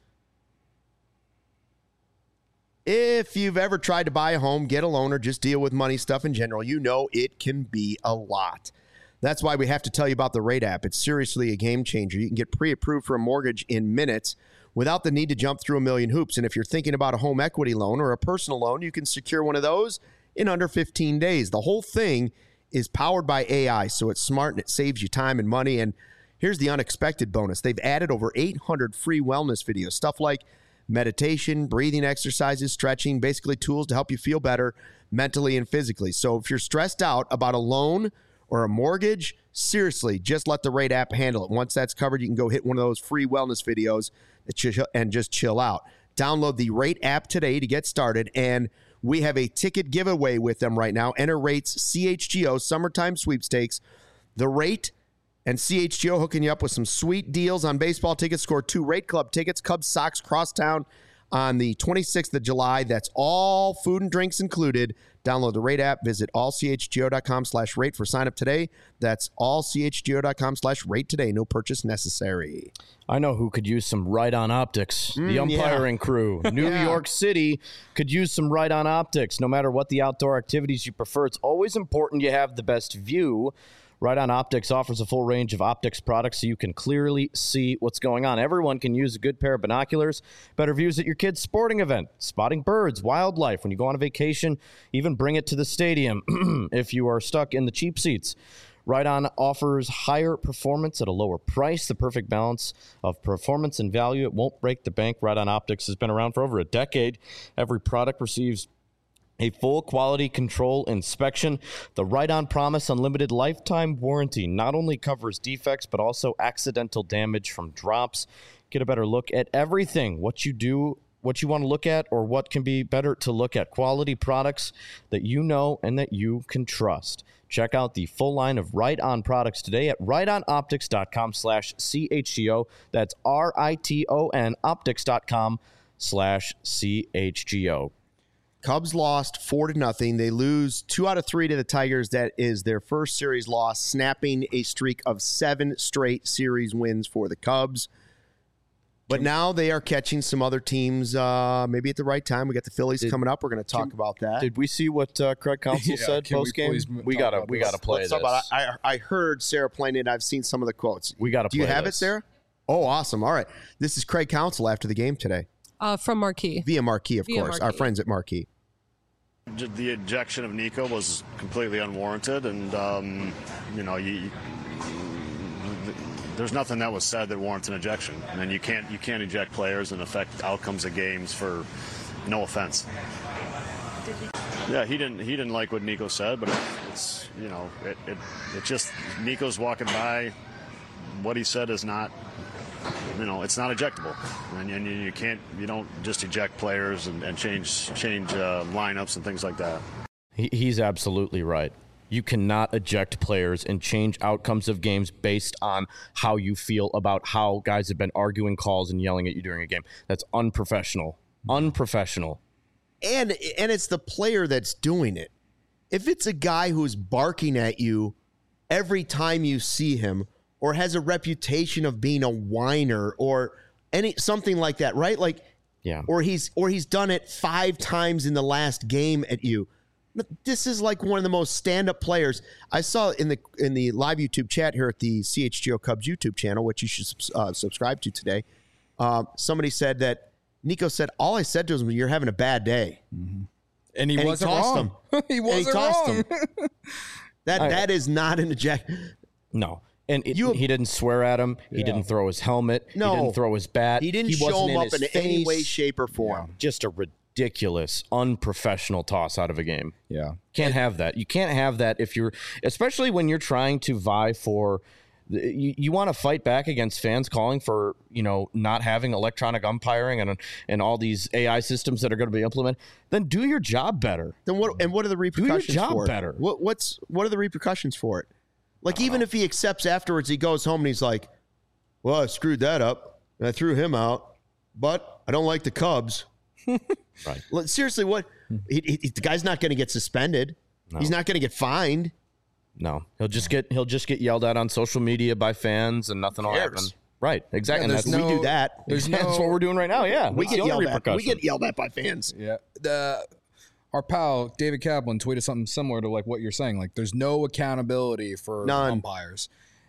If you've ever tried to buy a home, get a loan, or just deal with money stuff in general, you know it can be a lot. That's why we have to tell you about the Rate app. It's seriously a game changer. You can get pre-approved for a mortgage in minutes without the need to jump through a million hoops. And if you're thinking about a home equity loan or a personal loan, you can secure one of those in under fifteen days. The whole thing is powered by A I, so it's smart and it saves you time and money. And here's the unexpected bonus. They've added over eight hundred free wellness videos, stuff like meditation, breathing exercises, stretching, basically tools to help you feel better mentally and physically. So if you're stressed out about a loan or a mortgage, seriously, just let the Rate app handle it. Once that's covered, you can go hit one of those free wellness videos and just chill out. Download the Rate app today to get started, and we have a ticket giveaway with them right now. Enter Rate's C H G O Summertime Sweepstakes. The Rate and C H G O hooking you up with some sweet deals on baseball tickets. Score two Rate Club tickets, Cubs, Sox, Crosstown on the twenty-sixth of July. That's all food and drinks included. Download the Rate app. Visit allchgo.com slash rate for sign up today. That's allchgo.com slash rate today. No purchase necessary. I know who could use some Right-On Optics. Mm, the umpiring yeah. crew. New Yeah. York City could use some Right-On Optics. No matter what the outdoor activities you prefer, it's always important you have the best view. Right-On Optics offers a full range of optics products so you can clearly see what's going on. Everyone can use a good pair of binoculars. Better views at your kid's sporting event, spotting birds, wildlife, when you go on a vacation, even bring it to the stadium if you are stuck in the cheap seats. Right-On offers higher performance at a lower price, the perfect balance of performance and value. It won't break the bank. Right-On Optics has been around for over a decade. Every product receives a full quality control inspection. The Right-On Promise Unlimited Lifetime Warranty not only covers defects, but also accidental damage from drops. Get a better look at everything. What you do, what you want to look at, or what can be better to look at. Quality products that you know and that you can trust. Check out the full line of Right-On products today at rightonoptics.com slash CHGO. That's R-I-T-O-N optics.com slash C-H-G-O. Cubs lost four to nothing. They lose two out of three to the Tigers. That is their first series loss, snapping a streak of seven straight series wins for the Cubs. But now they are catching some other teams uh, maybe at the right time. We got the Phillies Did- coming up. We're going to talk Can- about that. Did we see what uh, Craig Counsell Yeah, said can we post game? please We, talk gotta about we this? gotta play Let's this. talk about it. I, I heard Sarah playing it. I've seen some of the quotes. We gotta Do you play have this. it, Sarah? Oh, awesome. All right. This is Craig Counsell after the game today. Uh, from Marquee. Via Marquee, of Via course. Our Marquee. friends at Marquee. The ejection of Nico was completely unwarranted, and um, you know, you, there's nothing that was said that warrants an ejection. And you can't you can't eject players and affect outcomes of games for no offense. Yeah, he didn't he didn't like what Nico said, but it's you know it it, it just Nico's walking by. What he said is not. You know, it's not ejectable, and, and you, you can't, you don't just eject players and, and change change uh, lineups and things like that. He, he's absolutely right. You cannot eject players and change outcomes of games based on how you feel about how guys have been arguing calls and yelling at you during a game. That's unprofessional. Unprofessional. And and it's the player that's doing it. If it's a guy who's barking at you every time you see him, or has a reputation of being a whiner, or any something like that, right? Like, Yeah. or he's or he's done it five times in the last game at you. This is like one of the most stand-up players I saw in the in the live YouTube chat here at the C H G O Cubs YouTube channel, which you should uh, subscribe to today. Uh, somebody said that Nico said, "All I said to him was, you're having a bad day," Mm-hmm. And he and wasn't he tossed wrong. him. he And wasn't he tossed wrong. him. That I- that is not an eject. No. And it, You- he didn't swear at him. He Yeah. didn't throw his helmet. No. He didn't throw his bat. He didn't he show wasn't him up his in any way, face. shape, or form. Just a ridiculous, unprofessional toss out of a game. Yeah. Can't have that. You can't have that if you're, especially when you're trying to vie for, you, you want to fight back against fans calling for, you know, not having electronic umpiring and and all these A I systems that are going to be implemented. Then do your job better. Then what? And what are the repercussions job for it? better. What, what's what are the repercussions for it? Like, even if he accepts afterwards, he goes home and he's like, "Well, I screwed that up and I threw him out, but I don't like the Cubs." Right. Like, seriously, what? He, he, the guy's not going to get suspended. He's not going to get fined. No, he'll just get he'll just get yelled at on social media by fans, and nothing will happen. cares? Right. Exactly. Yeah, and there's that's, we no- do that. There's that's no, what we're doing right now. Yeah. We That's get the only yelled at. We repercussion. get yelled at by fans. Yeah. The our pal David Kaplan tweeted something similar to like what you're saying. Like, there's no accountability for None. umpires,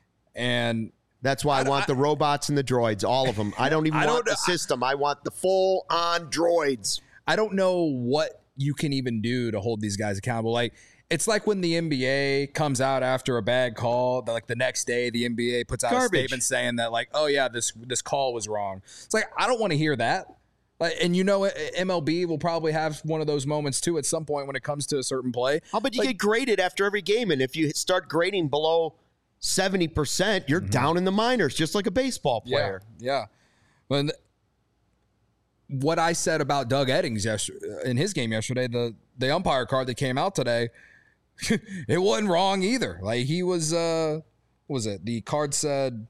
and That's why I, I- want I- the robots and the droids, all of them. I don't even I want don't- the system. I want the full on droids. I don't know what you can even do to hold these guys accountable. Like, it's like when the N B A comes out after a bad call, that like the next day the N B A puts out Garbage. a statement saying that like, oh yeah, this this call was wrong. It's like, I don't want to hear that. Like, and you know, M L B will probably have one of those moments too at some point when it comes to a certain play. How about you like, get graded after every game, and if you start grading below seventy percent, you're mm-hmm. down in the minors, just like a baseball player. Yeah, yeah. When what I said about Doug Eddings yesterday, in his game yesterday, the the umpire card that came out today, it wasn't wrong either. Like he was, uh, what was it? The card said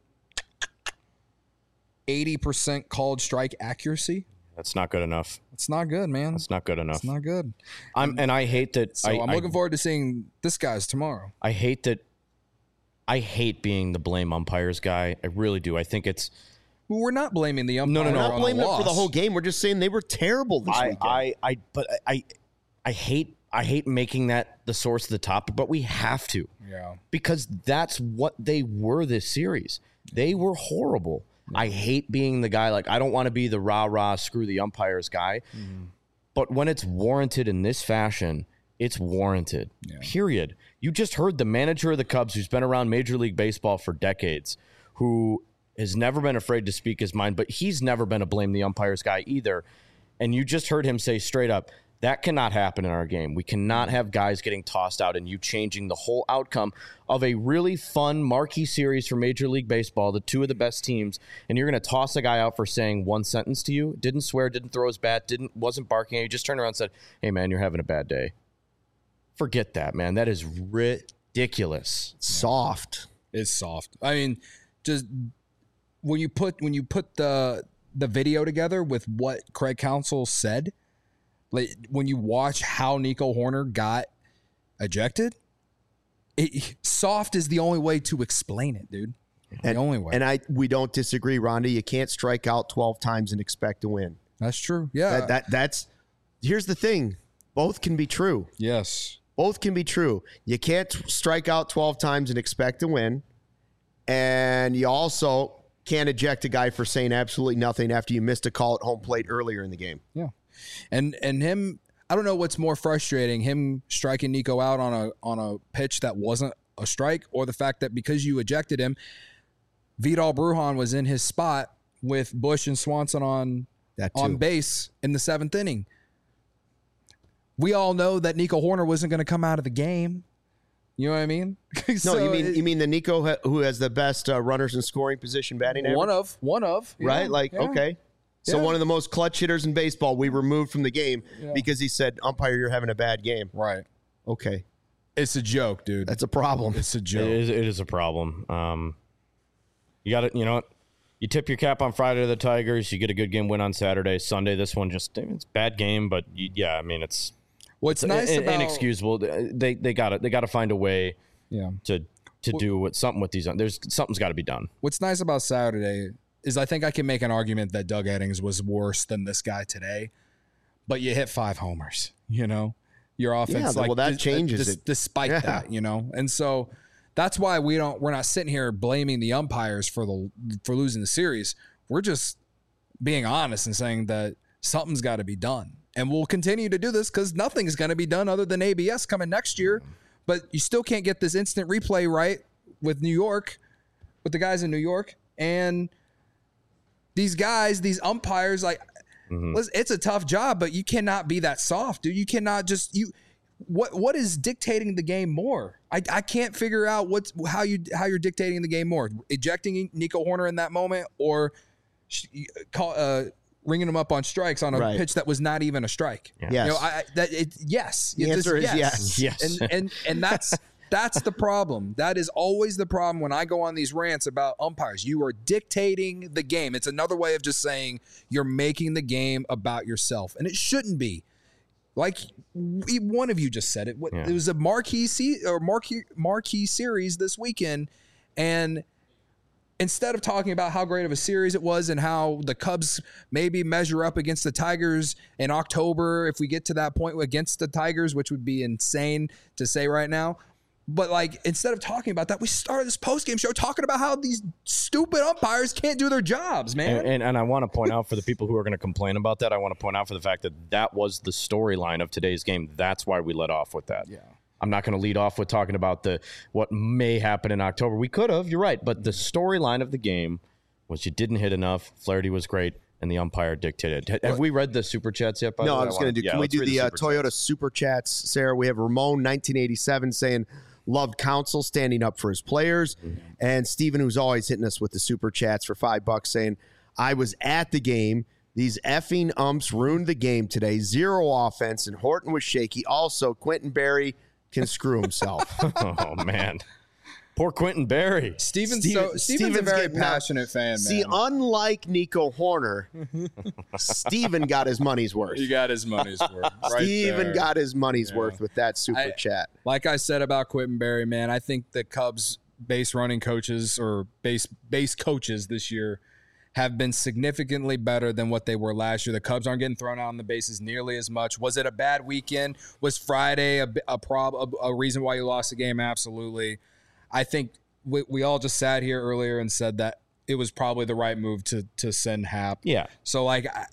eighty percent called strike accuracy. That's not good enough. It's not good, man. It's not good enough. It's not good. I'm and I hate that. So I, I'm looking I, forward to seeing this guy's tomorrow. I hate that. I hate being the blame umpires guy. I really do. I think it's. Well, we're not blaming the umpire. No, no, no. We're not blaming them for the loss. whole game. We're just saying they were terrible this I, weekend. I, I, but I, I hate. I hate making that the source of the topic, but we have to. Yeah. Because that's what they were this series. They were horrible. Yeah. I hate being the guy, like, I don't want to be the rah-rah, screw the umpires guy. Mm-hmm. But when it's warranted in this fashion, it's warranted. Yeah. Period. You just heard the manager of the Cubs, who's been around Major League Baseball for decades, who has never been afraid to speak his mind, but he's never been a blame the umpires guy either. And you just heard him say straight up, that cannot happen in our game. We cannot have guys getting tossed out and you changing the whole outcome of a really fun marquee series for Major League Baseball, the two of the best teams, and you're going to toss a guy out for saying one sentence to you, didn't swear, didn't throw his bat, didn't wasn't barking at you, just turned around and said, hey, man, you're having a bad day. Forget that, man. That is ridiculous. Soft. It's soft. I mean, just when you put when you put the the video together with what Craig Counsell said, like when you watch how Nico Hoerner got ejected, it, soft is the only way to explain it, dude. And, the only way. And I we don't disagree, Rhonda. You can't strike out twelve times and expect to win. That's true. Yeah. That, that that's here's the thing. Both can be true. Yes. Both can be true. You can't strike out twelve times and expect to win. And you also can't eject a guy for saying absolutely nothing after you missed a call at home plate earlier in the game. Yeah. And and him, I don't know what's more frustrating, him striking Nico out on a on a pitch that wasn't a strike, or the fact that because you ejected him, Vidal Brujan was in his spot with Bush and Swanson on on base in the seventh inning. We all know that Nico Hoerner wasn't going to come out of the game. You know what I mean? so no, you mean it, you mean the Nico ha- who has the best uh, runners in scoring position batting average? One of, one of, right? Yeah, like yeah. okay. So Yeah. one of the most clutch hitters in baseball, we removed from the game Yeah. because he said, umpire, you're having a bad game. Right. Okay. It's a joke, dude. That's a problem. It's a It joke. is, it is a problem. Um, you got to, you know what? You tip your cap on Friday to the Tigers. You get a good game win on Saturday. Sunday, this one just, it's a bad game, but you, yeah, I mean, it's, What's it's nice in, about inexcusable. They they got to they got to find a way yeah. to to do what something with these. There's something's got to be done. What's nice about Saturday is I think I can make an argument that Doug Eddings was worse than this guy today, but you hit five homers, you know, your offense. Yeah, like well, that dis- changes dis- it. despite Yeah. that, you know, and so that's why we don't, we're not sitting here blaming the umpires for the, for losing the series. We're just being honest and saying that something's got to be done. And we'll continue to do this because nothing's going to be done other than A B S coming next year. But you still can't get this instant replay right with New York, with the guys in New York. And these guys, these umpires, like, mm-hmm. listen, it's a tough job, but you cannot be that soft, dude. You cannot just, you, what what is dictating the game more? I, I can't figure out what's how you how you're dictating the game more. Ejecting Nico Hoerner in that moment, or call uh ringing him up on strikes on a Right. pitch that was not even a strike. Yes. You know, I, I that it yes. The It answer just- is yes. Yes. And and and that's that's the problem. That is always the problem when I go on these rants about umpires. You are dictating the game. It's another way of just saying you're making the game about yourself, and it shouldn't be. Like we- one of you just said it. What- Yeah. It was a marquee se- or marquee marquee series this weekend, and instead of talking about how great of a series it was and how the Cubs maybe measure up against the Tigers in October, if we get to that point against the Tigers, which would be insane to say right now. But like, instead of talking about that, we started this post-game show talking about how these stupid umpires can't do their jobs, man. And, and, and I want to point out for the people who are going to complain about that, I want to point out for the fact that that was the storyline of today's game. That's why we let off with that. Yeah. I'm not going to lead off with talking about the what may happen in October. We could have, you're right, but the storyline of the game was you didn't hit enough. Flaherty was great, and the umpire dictated. Have what? we read the super chats yet? By no, the way? I was going to do. Yeah, can we do the, the uh, super Toyota chats. super chats, Sarah? We have Ramon nineteen eighty-seven saying loved Counsell standing up for his players, mm-hmm. and Steven, who's always hitting us with the super chats for five bucks, saying I was at the game. These effing umps ruined the game today. Zero offense, and Horton was shaky. Also, Quentin Berry can screw himself. Oh, man. Poor Quentin Berry. Steven's, Steven, so, Steven's, Steven's a very passionate fan, man. See, unlike Nico Horner, Steven got his money's worth. He got his money's worth. Right Steven there. got his money's yeah. worth with that super I, chat. Like I said about Quentin Berry, man, I think the Cubs base running coaches or base base coaches this year have been significantly better than what they were last year. The Cubs aren't getting thrown out on the bases nearly as much. Was it a bad weekend? Was Friday a, a, prob, a, a reason why you lost the game? Absolutely. I think we, we all just sat here earlier and said that it was probably the right move to to send Hap. Yeah. So, like, I,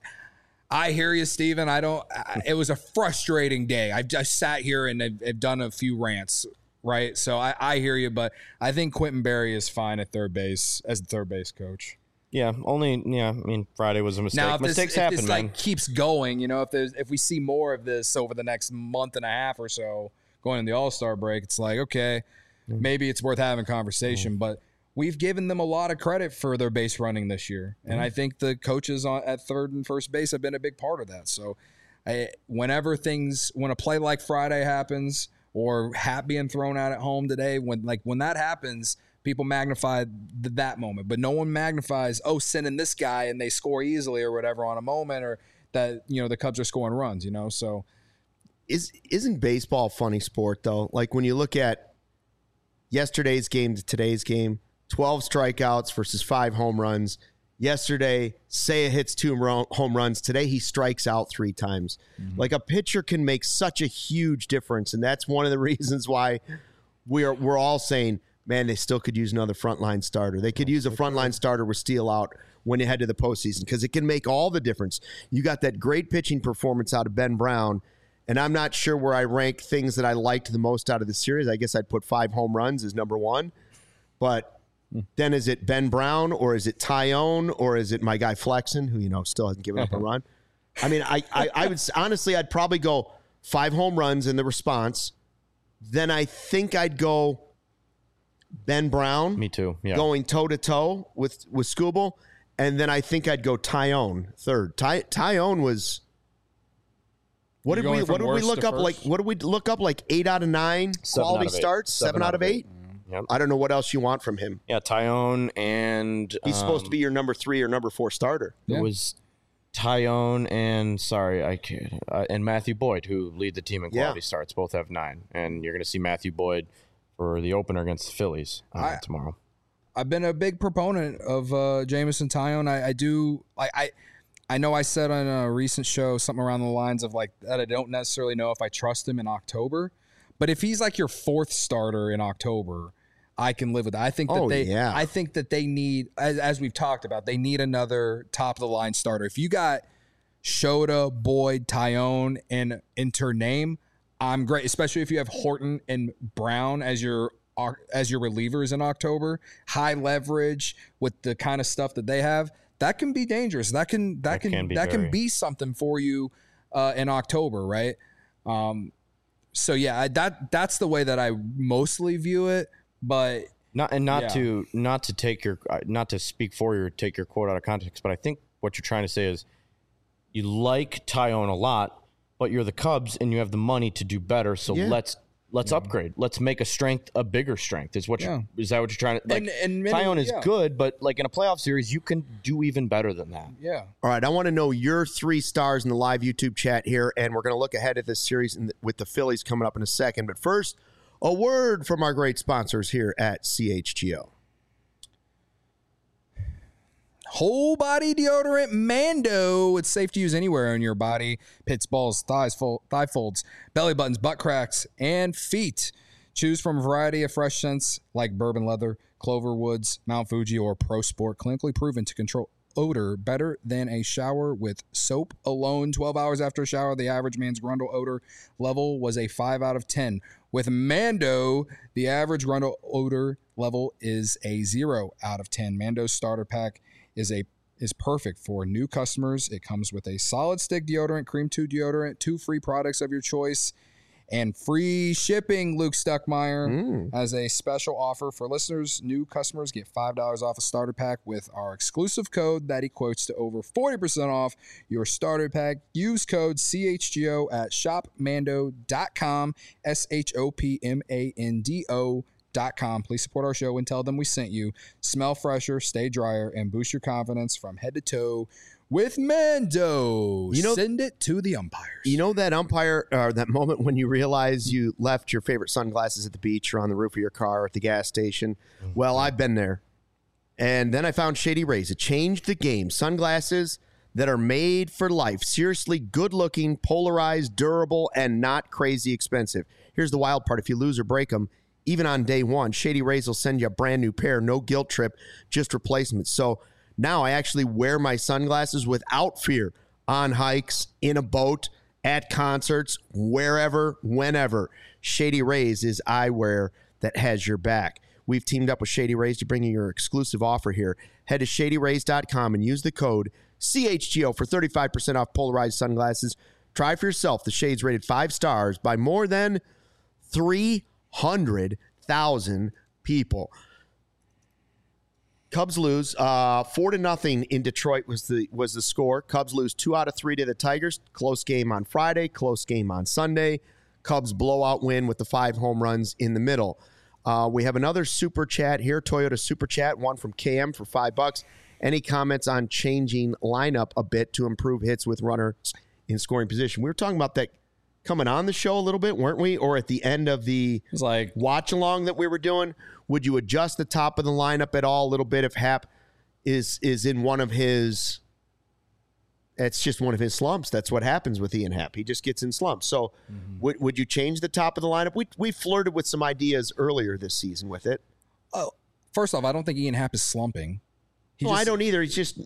I hear you, Steven. I don't I, – it was a frustrating day. I've just sat here and I've, I've done a few rants, right? So, I, I hear you, but I think Quentin Berry is fine at third base as the third base coach. Yeah, only yeah. I mean, Friday was a mistake. Now, if Mistakes this, if happen, this man. like keeps going, you know, if there's if we see more of this over the next month and a half or so, going in the All-Star break, it's like okay, mm. maybe it's worth having a conversation. Mm. But we've given them a lot of credit for their base running this year, mm. and I think the coaches on at third and first base have been a big part of that. So, I, whenever things when a play like Friday happens or Hap being thrown out at home today, when like when that happens. People magnify th- that moment, but no one magnifies, oh, sending this guy and they score easily or whatever on a moment or that, you know, the Cubs are scoring runs, you know, so. Is, isn't baseball a funny sport, though? Like when you look at yesterday's game to today's game, twelve strikeouts versus five home runs. Yesterday, Seiya hits two home runs. Today, he strikes out three times. Mm-hmm. Like a pitcher can make such a huge difference, and that's one of the reasons why we're we're all saying, man, they still could use another frontline starter. They could use a frontline starter with Steele out when you head to the postseason because it can make all the difference. You got that great pitching performance out of Ben Brown, and I'm not sure where I rank things that I liked the most out of the series. I guess I'd put five home runs as number one. But then is it Ben Brown or is it Tyone or is it my guy Flexen, who, you know, still hasn't given up a run? I mean, I, I, I would honestly, I'd probably go five home runs in the response. Then I think I'd go Ben Brown. Me too. Yeah. Going toe-to-toe with, with Skubal. And then I think I'd go Tyone third. Ty, Tyone was what did we what did we look up first? like what did we look up like eight out of nine seven quality out starts? Seven, seven out of eight? eight? Mm-hmm. Yep. I don't know what else you want from him. Yeah, Tyone and he's um, supposed to be your number three or number four starter. It yeah. was Tyone and sorry, I can't uh, and Matthew Boyd, who lead the team in quality yeah. starts. Both have nine. And you're gonna see Matthew Boyd for the opener against the Phillies uh, I, tomorrow. I've been a big proponent of uh, Jameson Tyone. I, I do. I, I I know I said on a recent show something around the lines of like that. I don't necessarily know if I trust him in October, but if he's like your fourth starter in October, I can live with that. I think that oh, they. Yeah. I think that they need, as, as we've talked about, they need another top of the line starter. If you got Shota, Boyd, Tyone, and enter name, I'm great. Especially if you have Horton and Brown as your. as your relievers in October, high leverage with the kind of stuff that they have, that can be dangerous. That can that, that can, can that very... can be something for you uh, in October, right? Um, so yeah, I, that that's the way that I mostly view it. But not and not yeah. to not to take your not to speak for you or take your quote out of context, but I think what you're trying to say is you like Tyone a lot, but you're the Cubs and you have the money to do better. So yeah. let's. Let's yeah. upgrade. Let's make a strength a bigger strength. Is what? Yeah. Is that what you're trying to? Like, and, and many, Tyone is yeah. good, but like in a playoff series, you can do even better than that. Yeah. All right. I want to know your three stars in the live YouTube chat here, and we're going to look ahead at this series in the, with the Phillies coming up in a second. But first, a word from our great sponsors here at C H G O. Whole body deodorant Mando. It's safe to use anywhere on your body. Pits, balls, thighs, fold, thigh folds, belly buttons, butt cracks, and feet. Choose from a variety of fresh scents like bourbon leather, clover woods, Mount Fuji, or Pro Sport. Clinically proven to control odor better than a shower with soap alone. twelve hours after a shower, the average man's Grundle odor level was a five out of ten. With Mando, the average Grundle odor level is a zero out of ten. Mando's starter pack is a is perfect for new customers. It comes with a solid stick deodorant, cream two deodorant, two free products of your choice, and free shipping. Luke Stuckmeyer mm. as a special offer for listeners. New customers get five dollars off a starter pack with our exclusive code that equates to over forty percent off your starter pack. Use code C H G O at shop mando dot com, S H O P M A N D O dot com. Please support our show and tell them we sent you. Smell fresher, stay drier, and boost your confidence from head to toe with Mando. You know, send it to the umpires. You know that umpire, or that moment when you realize you left your favorite sunglasses at the beach or on the roof of your car or at the gas station? Mm-hmm. Well, I've been there. And then I found Shady Rays. It changed the game. Sunglasses that are made for life. Seriously good-looking, polarized, durable, and not crazy expensive. Here's the wild part. If you lose or break them, even on day one, Shady Rays will send you a brand new pair. No guilt trip, just replacements. So now I actually wear my sunglasses without fear on hikes, in a boat, at concerts, wherever, whenever. Shady Rays is eyewear that has your back. We've teamed up with Shady Rays to bring you your exclusive offer here. Head to shady rays dot com and use the code C H G O for thirty-five percent off polarized sunglasses. Try for yourself. The shades rated five stars by more than three hundred thousand people. Cubs lose uh, four to nothing in Detroit was the was the score. Cubs lose two out of three to the Tigers. Close game on Friday. Close game on Sunday. Cubs blowout win with the five home runs in the middle. Uh, we have another super chat here. Toyota super chat. One from K M for five bucks. Any comments on changing lineup a bit to improve hits with runners in scoring position? We were talking about that coming on the show a little bit, weren't we? Or at the end of the it was like watch along that we were doing, would you adjust the top of the lineup at all a little bit if Happ is is in one of his? It's just one of his slumps. That's what happens with Ian Happ. He just gets in slumps. So, mm-hmm. would would you change the top of the lineup? We we flirted with some ideas earlier this season with it. Oh, first off, I don't think Ian Happ is slumping. He no, just, I don't either. He's just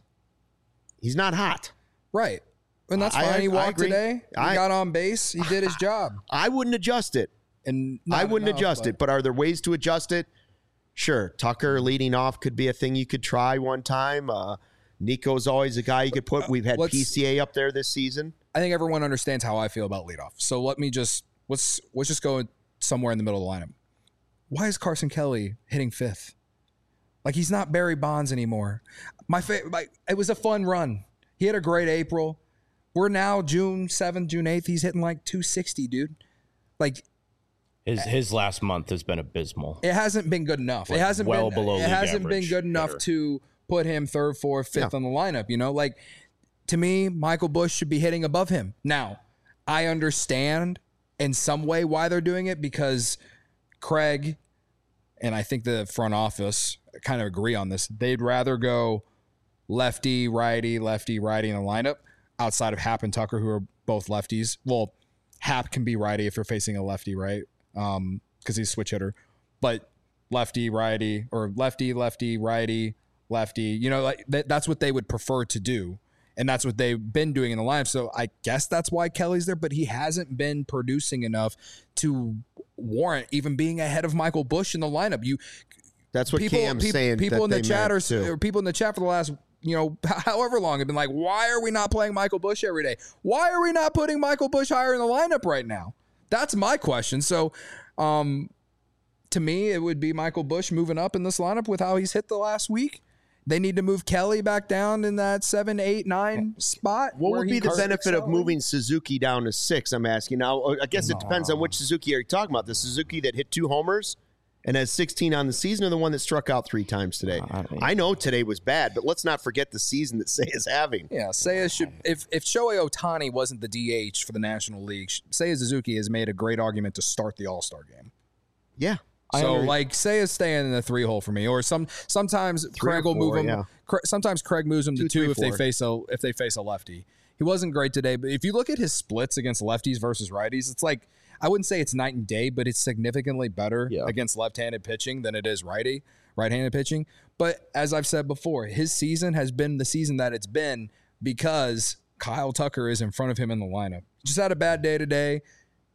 he's not hot. Right. And that's fine. I, he walked today. He I, got on base. He did his job. I wouldn't adjust it. And I wouldn't enough, adjust but. it. But are there ways to adjust it? Sure. Tucker leading off could be a thing you could try one time. Uh, Nico's always a guy you could put. We've had let's, P C A up there this season. I think everyone understands how I feel about leadoff. So let me just let's let's just go somewhere in the middle of the lineup. Why is Carson Kelly hitting fifth? Like, he's not Barry Bonds anymore. My favorite. Like, it was a fun run. He had a great April. We're now June seventh, June eighth. He's hitting like two sixty, dude. Like his his last month has been abysmal. It hasn't been good enough. Like it hasn't well been below it hasn't been good enough hitter. to put him third, fourth, fifth yeah. on the lineup, you know? Like, to me, Michael Busch should be hitting above him. Now, I understand in some way why they're doing it, because Craig and I think the front office kind of agree on this. They'd rather go lefty, righty, lefty, righty in the lineup outside of Happ and Tucker, who are both lefties. Well, Happ can be righty if you're facing a lefty, right? Um, because he's a switch hitter. But lefty, righty, or lefty, lefty, righty, lefty, you know, like th- that's what they would prefer to do. And that's what they've been doing in the lineup. So I guess that's why Kelly's there, but he hasn't been producing enough to warrant even being ahead of Michael Busch in the lineup. You, that's what people, Cam's people, saying. People that in the chat are, or people in the chat for the last, you know, however long have been like, why are we not playing Michael Busch every day? Why are we not putting Michael Busch higher in the lineup right now? That's my question. So, um, to me, it would be Michael Busch moving up in this lineup with how he's hit the last week. They need to move Kelly back down in that seven, eight, nine spot. What would be the benefit of moving Suzuki down to six? I'm asking now. I guess it depends on which Suzuki are you talking about. The Suzuki that hit two homers and has sixteen on the season, or the one that struck out three times today? Uh, I, I know today was bad, but let's not forget the season that Seiya's having. Yeah, Seiya should. If if Shohei Ohtani wasn't the D H for the National League, Seiya Suzuki has made a great argument to start the All-Star game. Yeah. So, like, Seiya's staying in the three hole for me, or some sometimes three Craig will four, move him. Yeah. Sometimes Craig moves him two, to two three, if four. they face a if they face a lefty. He wasn't great today, but if you look at his splits against lefties versus righties, it's like, I wouldn't say it's night and day, but it's significantly better yeah. against left-handed pitching than it is righty right-handed pitching. But as I've said before, his season has been the season that it's been because Kyle Tucker is in front of him in the lineup. Just had a bad day today.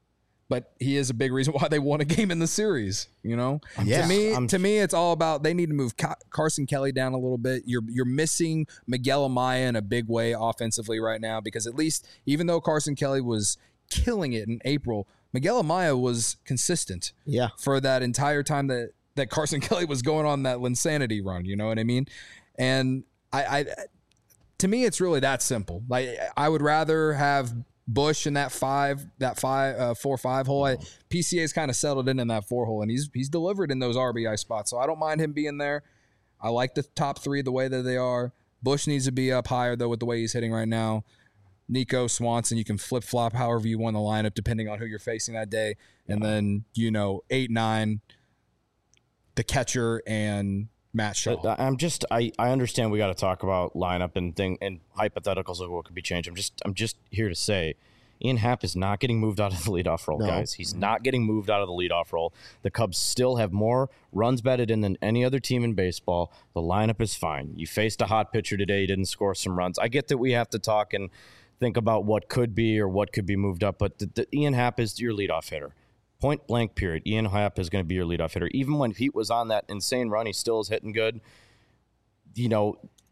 but he is a big reason why they won a game in the series. You know, Yeah. to me, I'm- to me, it's all about they need to move Ca- Carson Kelly down a little bit. You're you're missing Miguel Amaya in a big way offensively right now because at least even though Carson Kelly was killing it in April, Miguel Amaya was consistent. Yeah. For that entire time that that Carson Kelly was going on that Linsanity run. You know what I mean? And I, I to me, it's really that simple. Like I would rather have Bush in that five, that five, uh, four, five hole. I, P C A's kind of settled in in that four hole, and he's he's delivered in those R B I spots. So I don't mind him being there. I like the top three the way that they are. Bush needs to be up higher though with the way he's hitting right now. Nico Swanson, you can flip flop however you want the lineup depending on who you're facing that day, and then you know eight, nine, the catcher and Matt Shaw. But I'm just I, I understand we got to talk about lineup and thing and hypotheticals of what could be changed. I'm just I'm just here to say Ian Happ is not getting moved out of the leadoff role, No. guys. He's not getting moved out of the leadoff role. The Cubs still have more runs batted in than any other team in baseball. The lineup is fine. You faced a hot pitcher today, didn't score some runs. I get that we have to talk and think about what could be or what could be moved up, but the, the Ian Happ is your leadoff hitter. Point blank period. Ian Happ is going to be your leadoff hitter. Even when Pete was on that insane run, he still is hitting good. You know,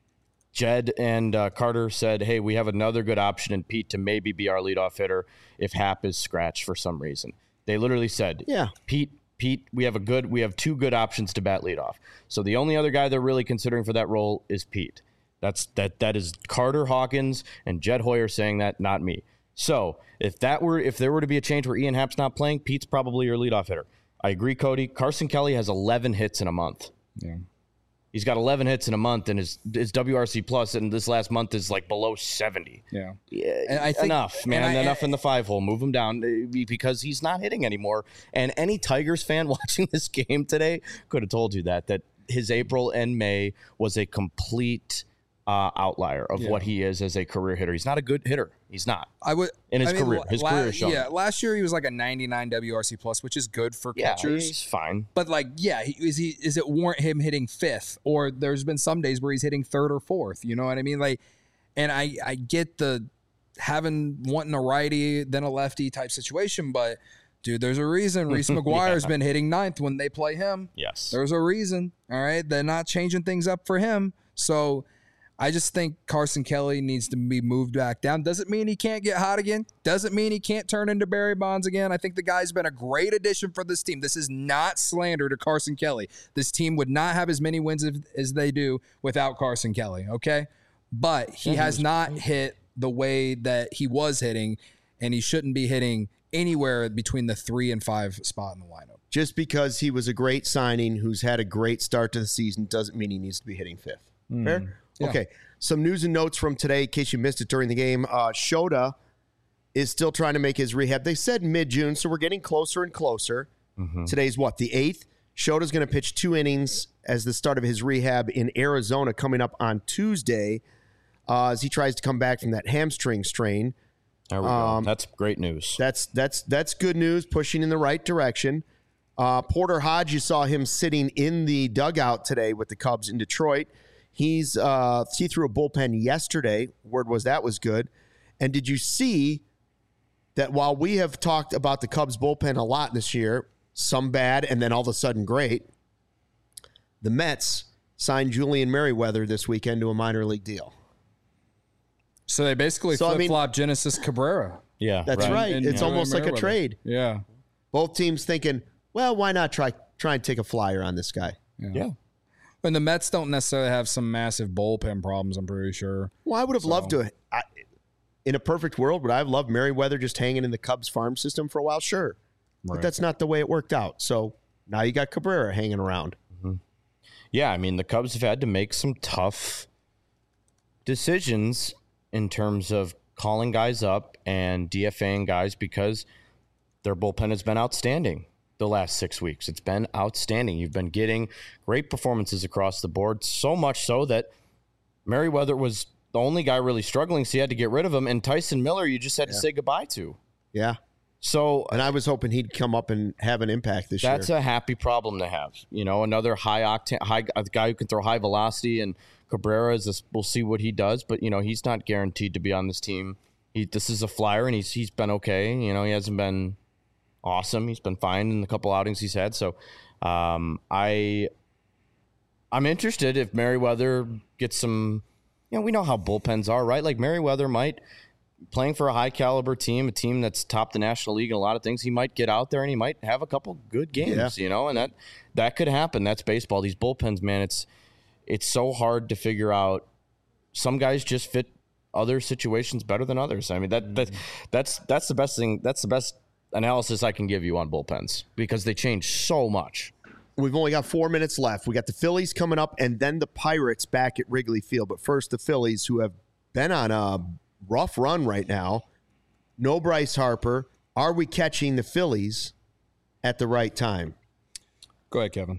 Jed and uh, Carter said, hey, we have another good option in Pete to maybe be our leadoff hitter if Happ is scratched for some reason. They literally said, Yeah. Pete, Pete, we have a good, we have two good options to bat leadoff. So the only other guy they're really considering for that role is Pete. That's that that is Carter Hawkins and Jed Hoyer saying that, not me. So if that were if there were to be a change where Ian Happ's not playing, Pete's probably your leadoff hitter. I agree, Cody. Carson Kelly has eleven hits in a month. Yeah. He's got eleven hits in a month, and his his W R C plus in this last month is like below seventy. Yeah. Yeah, And I think- enough, man. and I- enough in the five hole. Move him down uh, because he's not hitting anymore. And any Tigers fan watching this game today could have told you that that his April and May was a complete uh, outlier of Yeah. what he is as a career hitter. He's not a good hitter. He's not. I would In his I mean, career. His la- career has shown. Yeah, last year he was like a ninety-nine W R C plus, which is good for Yeah, catchers. he's fine. But like, yeah, he, is he is it warrant him hitting fifth? Or there's been some days where he's hitting third or fourth. You know what I mean? Like, and I I get the having wanting a righty then a lefty type situation, but dude, there's a reason Reese McGuire's Yeah. been hitting ninth when they play him. Yes. There's a reason. All right, they're not changing things up for him. So I just think Carson Kelly needs to be moved back down. Doesn't mean he can't get hot again. Doesn't mean he can't turn into Barry Bonds again. I think the guy's been a great addition for this team. This is not slander to Carson Kelly. This team would not have as many wins as, as they do without Carson Kelly, okay? But he has not hit the way that he was hitting, and he shouldn't be hitting anywhere between the three and five spot in the lineup. Just because he was a great signing who's had a great start to the season doesn't mean he needs to be hitting fifth. Fair? Yeah. Okay. Some news and notes from today, in case you missed it during the game. Uh, Shota is still trying to make his rehab. They said mid-June, so we're getting closer and closer. Today's what, the eighth? Shota's going to pitch two innings as the start of his rehab in Arizona coming up on Tuesday uh, as he tries to come back from that hamstring strain. There we Um, go. That's great news. That's that's that's good news, pushing in the right direction. Uh, Porter Hodge, you saw him sitting in the dugout today with the Cubs in Detroit. He's uh, he threw a bullpen yesterday. Word was that was good. And did you see that while we have talked about the Cubs bullpen a lot this year, some bad and then all of a sudden great, the Mets signed Julian Merriweather this weekend to a minor league deal. So they basically So, I mean- flip-flop Genesis Cabrera. yeah, That's right. And It's Julian almost like a Merriweather. trade. Yeah. Both teams thinking, well, why not try try and take a flyer on this guy? Yeah. And the Mets don't necessarily have some massive bullpen problems, I'm pretty sure. Well, I would have loved to. I, in a perfect world, would I have loved Merriweather just hanging in the Cubs farm system for a while? Sure. But Right. that's not the way it worked out. So now you got Cabrera hanging around. Yeah, I mean, the Cubs have had to make some tough decisions in terms of calling guys up and DFAing guys because their bullpen has been outstanding the last six weeks. It's been outstanding. You've been getting great performances across the board, so much so that Merriweather was the only guy really struggling, so you had to get rid of him. And Tyson Miller, you just had to say goodbye to. Yeah. So And I was hoping he'd come up and have an impact this that's year. a happy problem to have. You know, another high octane, high a guy who can throw high velocity, and Cabrera is this. We'll see what he does, but you know, he's not guaranteed to be on this team. He this is a flyer, and he's he's been okay. You know, he hasn't been awesome. He's been fine in the couple outings he's had. So um, I, I'm interested if Merriweather gets some, you know, we know how bullpens are, right? Like Merriweather might, playing for a high caliber team, a team that's topped the National League in a lot of things, he might get out there and he might have a couple good games, yeah. you know, and that, that could happen. That's baseball. These bullpens, man, it's, it's so hard to figure out. Some guys just fit other situations better than others. I mean, that, that that's, that's the best thing. That's the best analysis I can give you on bullpens because they change so much. We've only got four minutes left. We got the Phillies coming up and then the Pirates back at Wrigley Field. But first, the Phillies, who have been on a rough run right now. No Bryce Harper. Are we catching the Phillies at the right time? Go ahead, Kevin.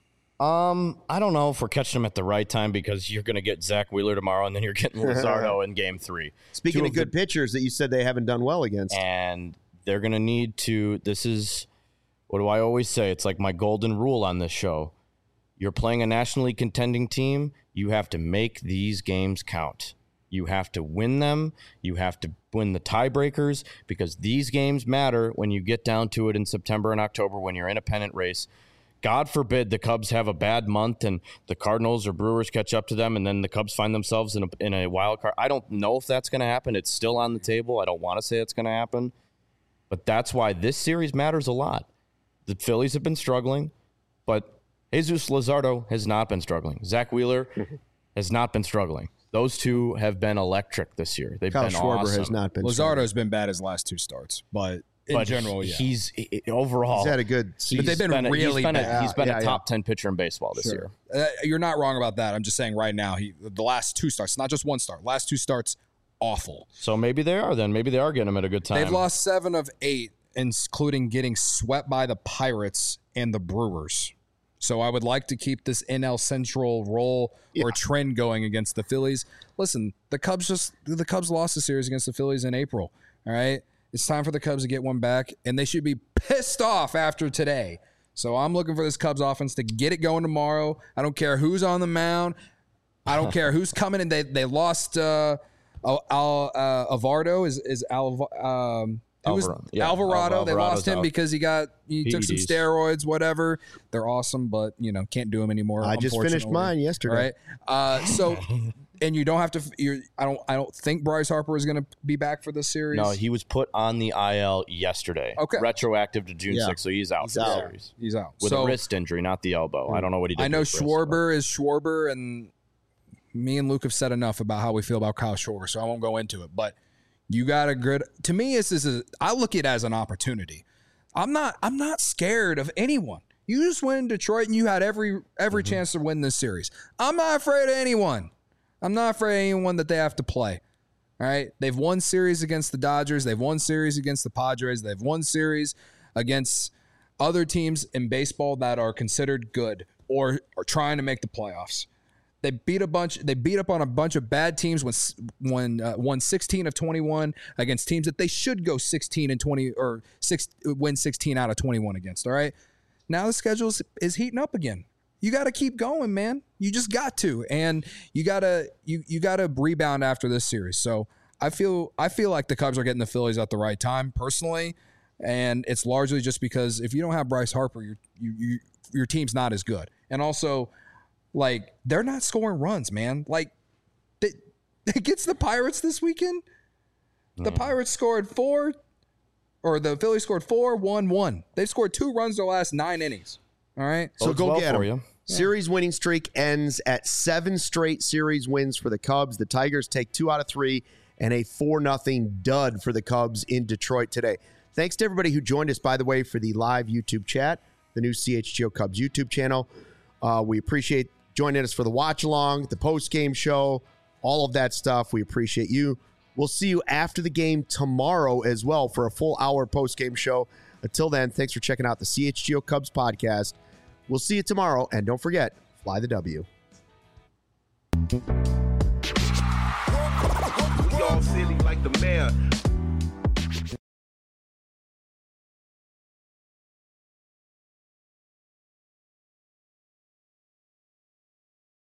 Um, I don't know if we're catching them at the right time because you're going to get Zach Wheeler tomorrow and then you're getting Luzardo in game three. Speaking Two of, of good the, pitchers that you said they haven't done well against. And they're going to need to, this is, what do I always say? It's like my golden rule on this show. You're playing a nationally contending team. You have to make these games count. You have to win them. You have to win the tiebreakers because these games matter when you get down to it in September and October when you're in a pennant race. God forbid the Cubs have a bad month and the Cardinals or Brewers catch up to them and then the Cubs find themselves in a, in a wild card. I don't know if that's going to happen. It's still on the table. I don't want to say it's going to happen. But that's why this series matters a lot. The Phillies have been struggling, but Jesus Luzardo has not been struggling. Zach Wheeler has not been struggling. Those two have been electric this year. They've Kyle been Schwarber awesome. has not been Luzardo's been bad his last two starts, but in but general, yeah. He's he, overall. He's had a good season. But they've been, been really a, he's been bad. A, he's been yeah, a top yeah. ten pitcher in baseball this Sure. year. Uh, you're not wrong about that. I'm just saying right now, he the last two starts, not just one start, last two starts, awful. So maybe they are then. Maybe they are getting him at a good time. They've lost seven of eight, including getting swept by the Pirates and the Brewers. So I would like to keep this N L Central roll Yeah. or trend going against the Phillies. Listen, the Cubs just the Cubs lost the series against the Phillies in April. All right. It's time for the Cubs to get one back, and they should be pissed off after today. So I'm looking for this Cubs offense to get it going tomorrow. I don't care who's on the mound. I don't care who's coming in. They they lost uh, Al, uh, Avardo is is Al, um, it was Alvarado. Yeah, Alvarado. They lost him out. because he got he P E Ds. took some steroids, whatever. They're awesome, but you know can't do them anymore. I just finished unfortunately. mine yesterday. Right. Uh, so. And you don't have to. You're, I don't. I don't think Bryce Harper is going to be back for this series. No, he was put on the I L yesterday. Okay. Retroactive to June Yeah. sixth, so he's out He's for the out. series. He's out With so, a wrist injury, not the elbow. I don't know what he did. I know to his wrist, Schwarber is Schwarber, and me and Luke have said enough about how we feel about Kyle Schwarber, so I won't go into it. But you got a good. To me, this is. A, I look at it as an opportunity. I'm not. I'm not scared of anyone. You just went in Detroit, and you had every every Mm-hmm. chance to win this series. I'm not afraid of anyone. I'm not afraid of anyone that they have to play. All right. They've won series against the Dodgers. They've won series against the Padres. They've won series against other teams in baseball that are considered good or are trying to make the playoffs. They beat a bunch. They beat up on a bunch of bad teams when when uh, won sixteen of twenty-one against teams that they should go sixteen and twenty or six win sixteen out of twenty-one against. All right. Now the schedule is, is heating up again. You got to keep going, man. You just got to, and you gotta you you gotta rebound after this series. So I feel I feel like the Cubs are getting the Phillies at the right time, personally, and it's largely just because if you don't have Bryce Harper, your you, you your team's not as good, and also like they're not scoring runs, man. Like they, it gets the Pirates this weekend. The Pirates scored four, or the Phillies scored four, one, one. They've scored two runs their last nine innings. All right. So Bodes go well get for them. you. Series winning streak ends at seven straight series wins for the Cubs. The Tigers take two out of three and a four nothing dud for the Cubs in Detroit today. Thanks to everybody who joined us, by the way, for the live YouTube chat, the new C H G O Cubs YouTube channel. Uh, we appreciate joining us for the watch along, the post game show, all of that stuff. We appreciate you. We'll see you after the game tomorrow as well for a full hour post game show. Until then, thanks for checking out the C H G O Cubs podcast. We'll see you tomorrow, and don't forget, fly the W. We all silly like the mayor.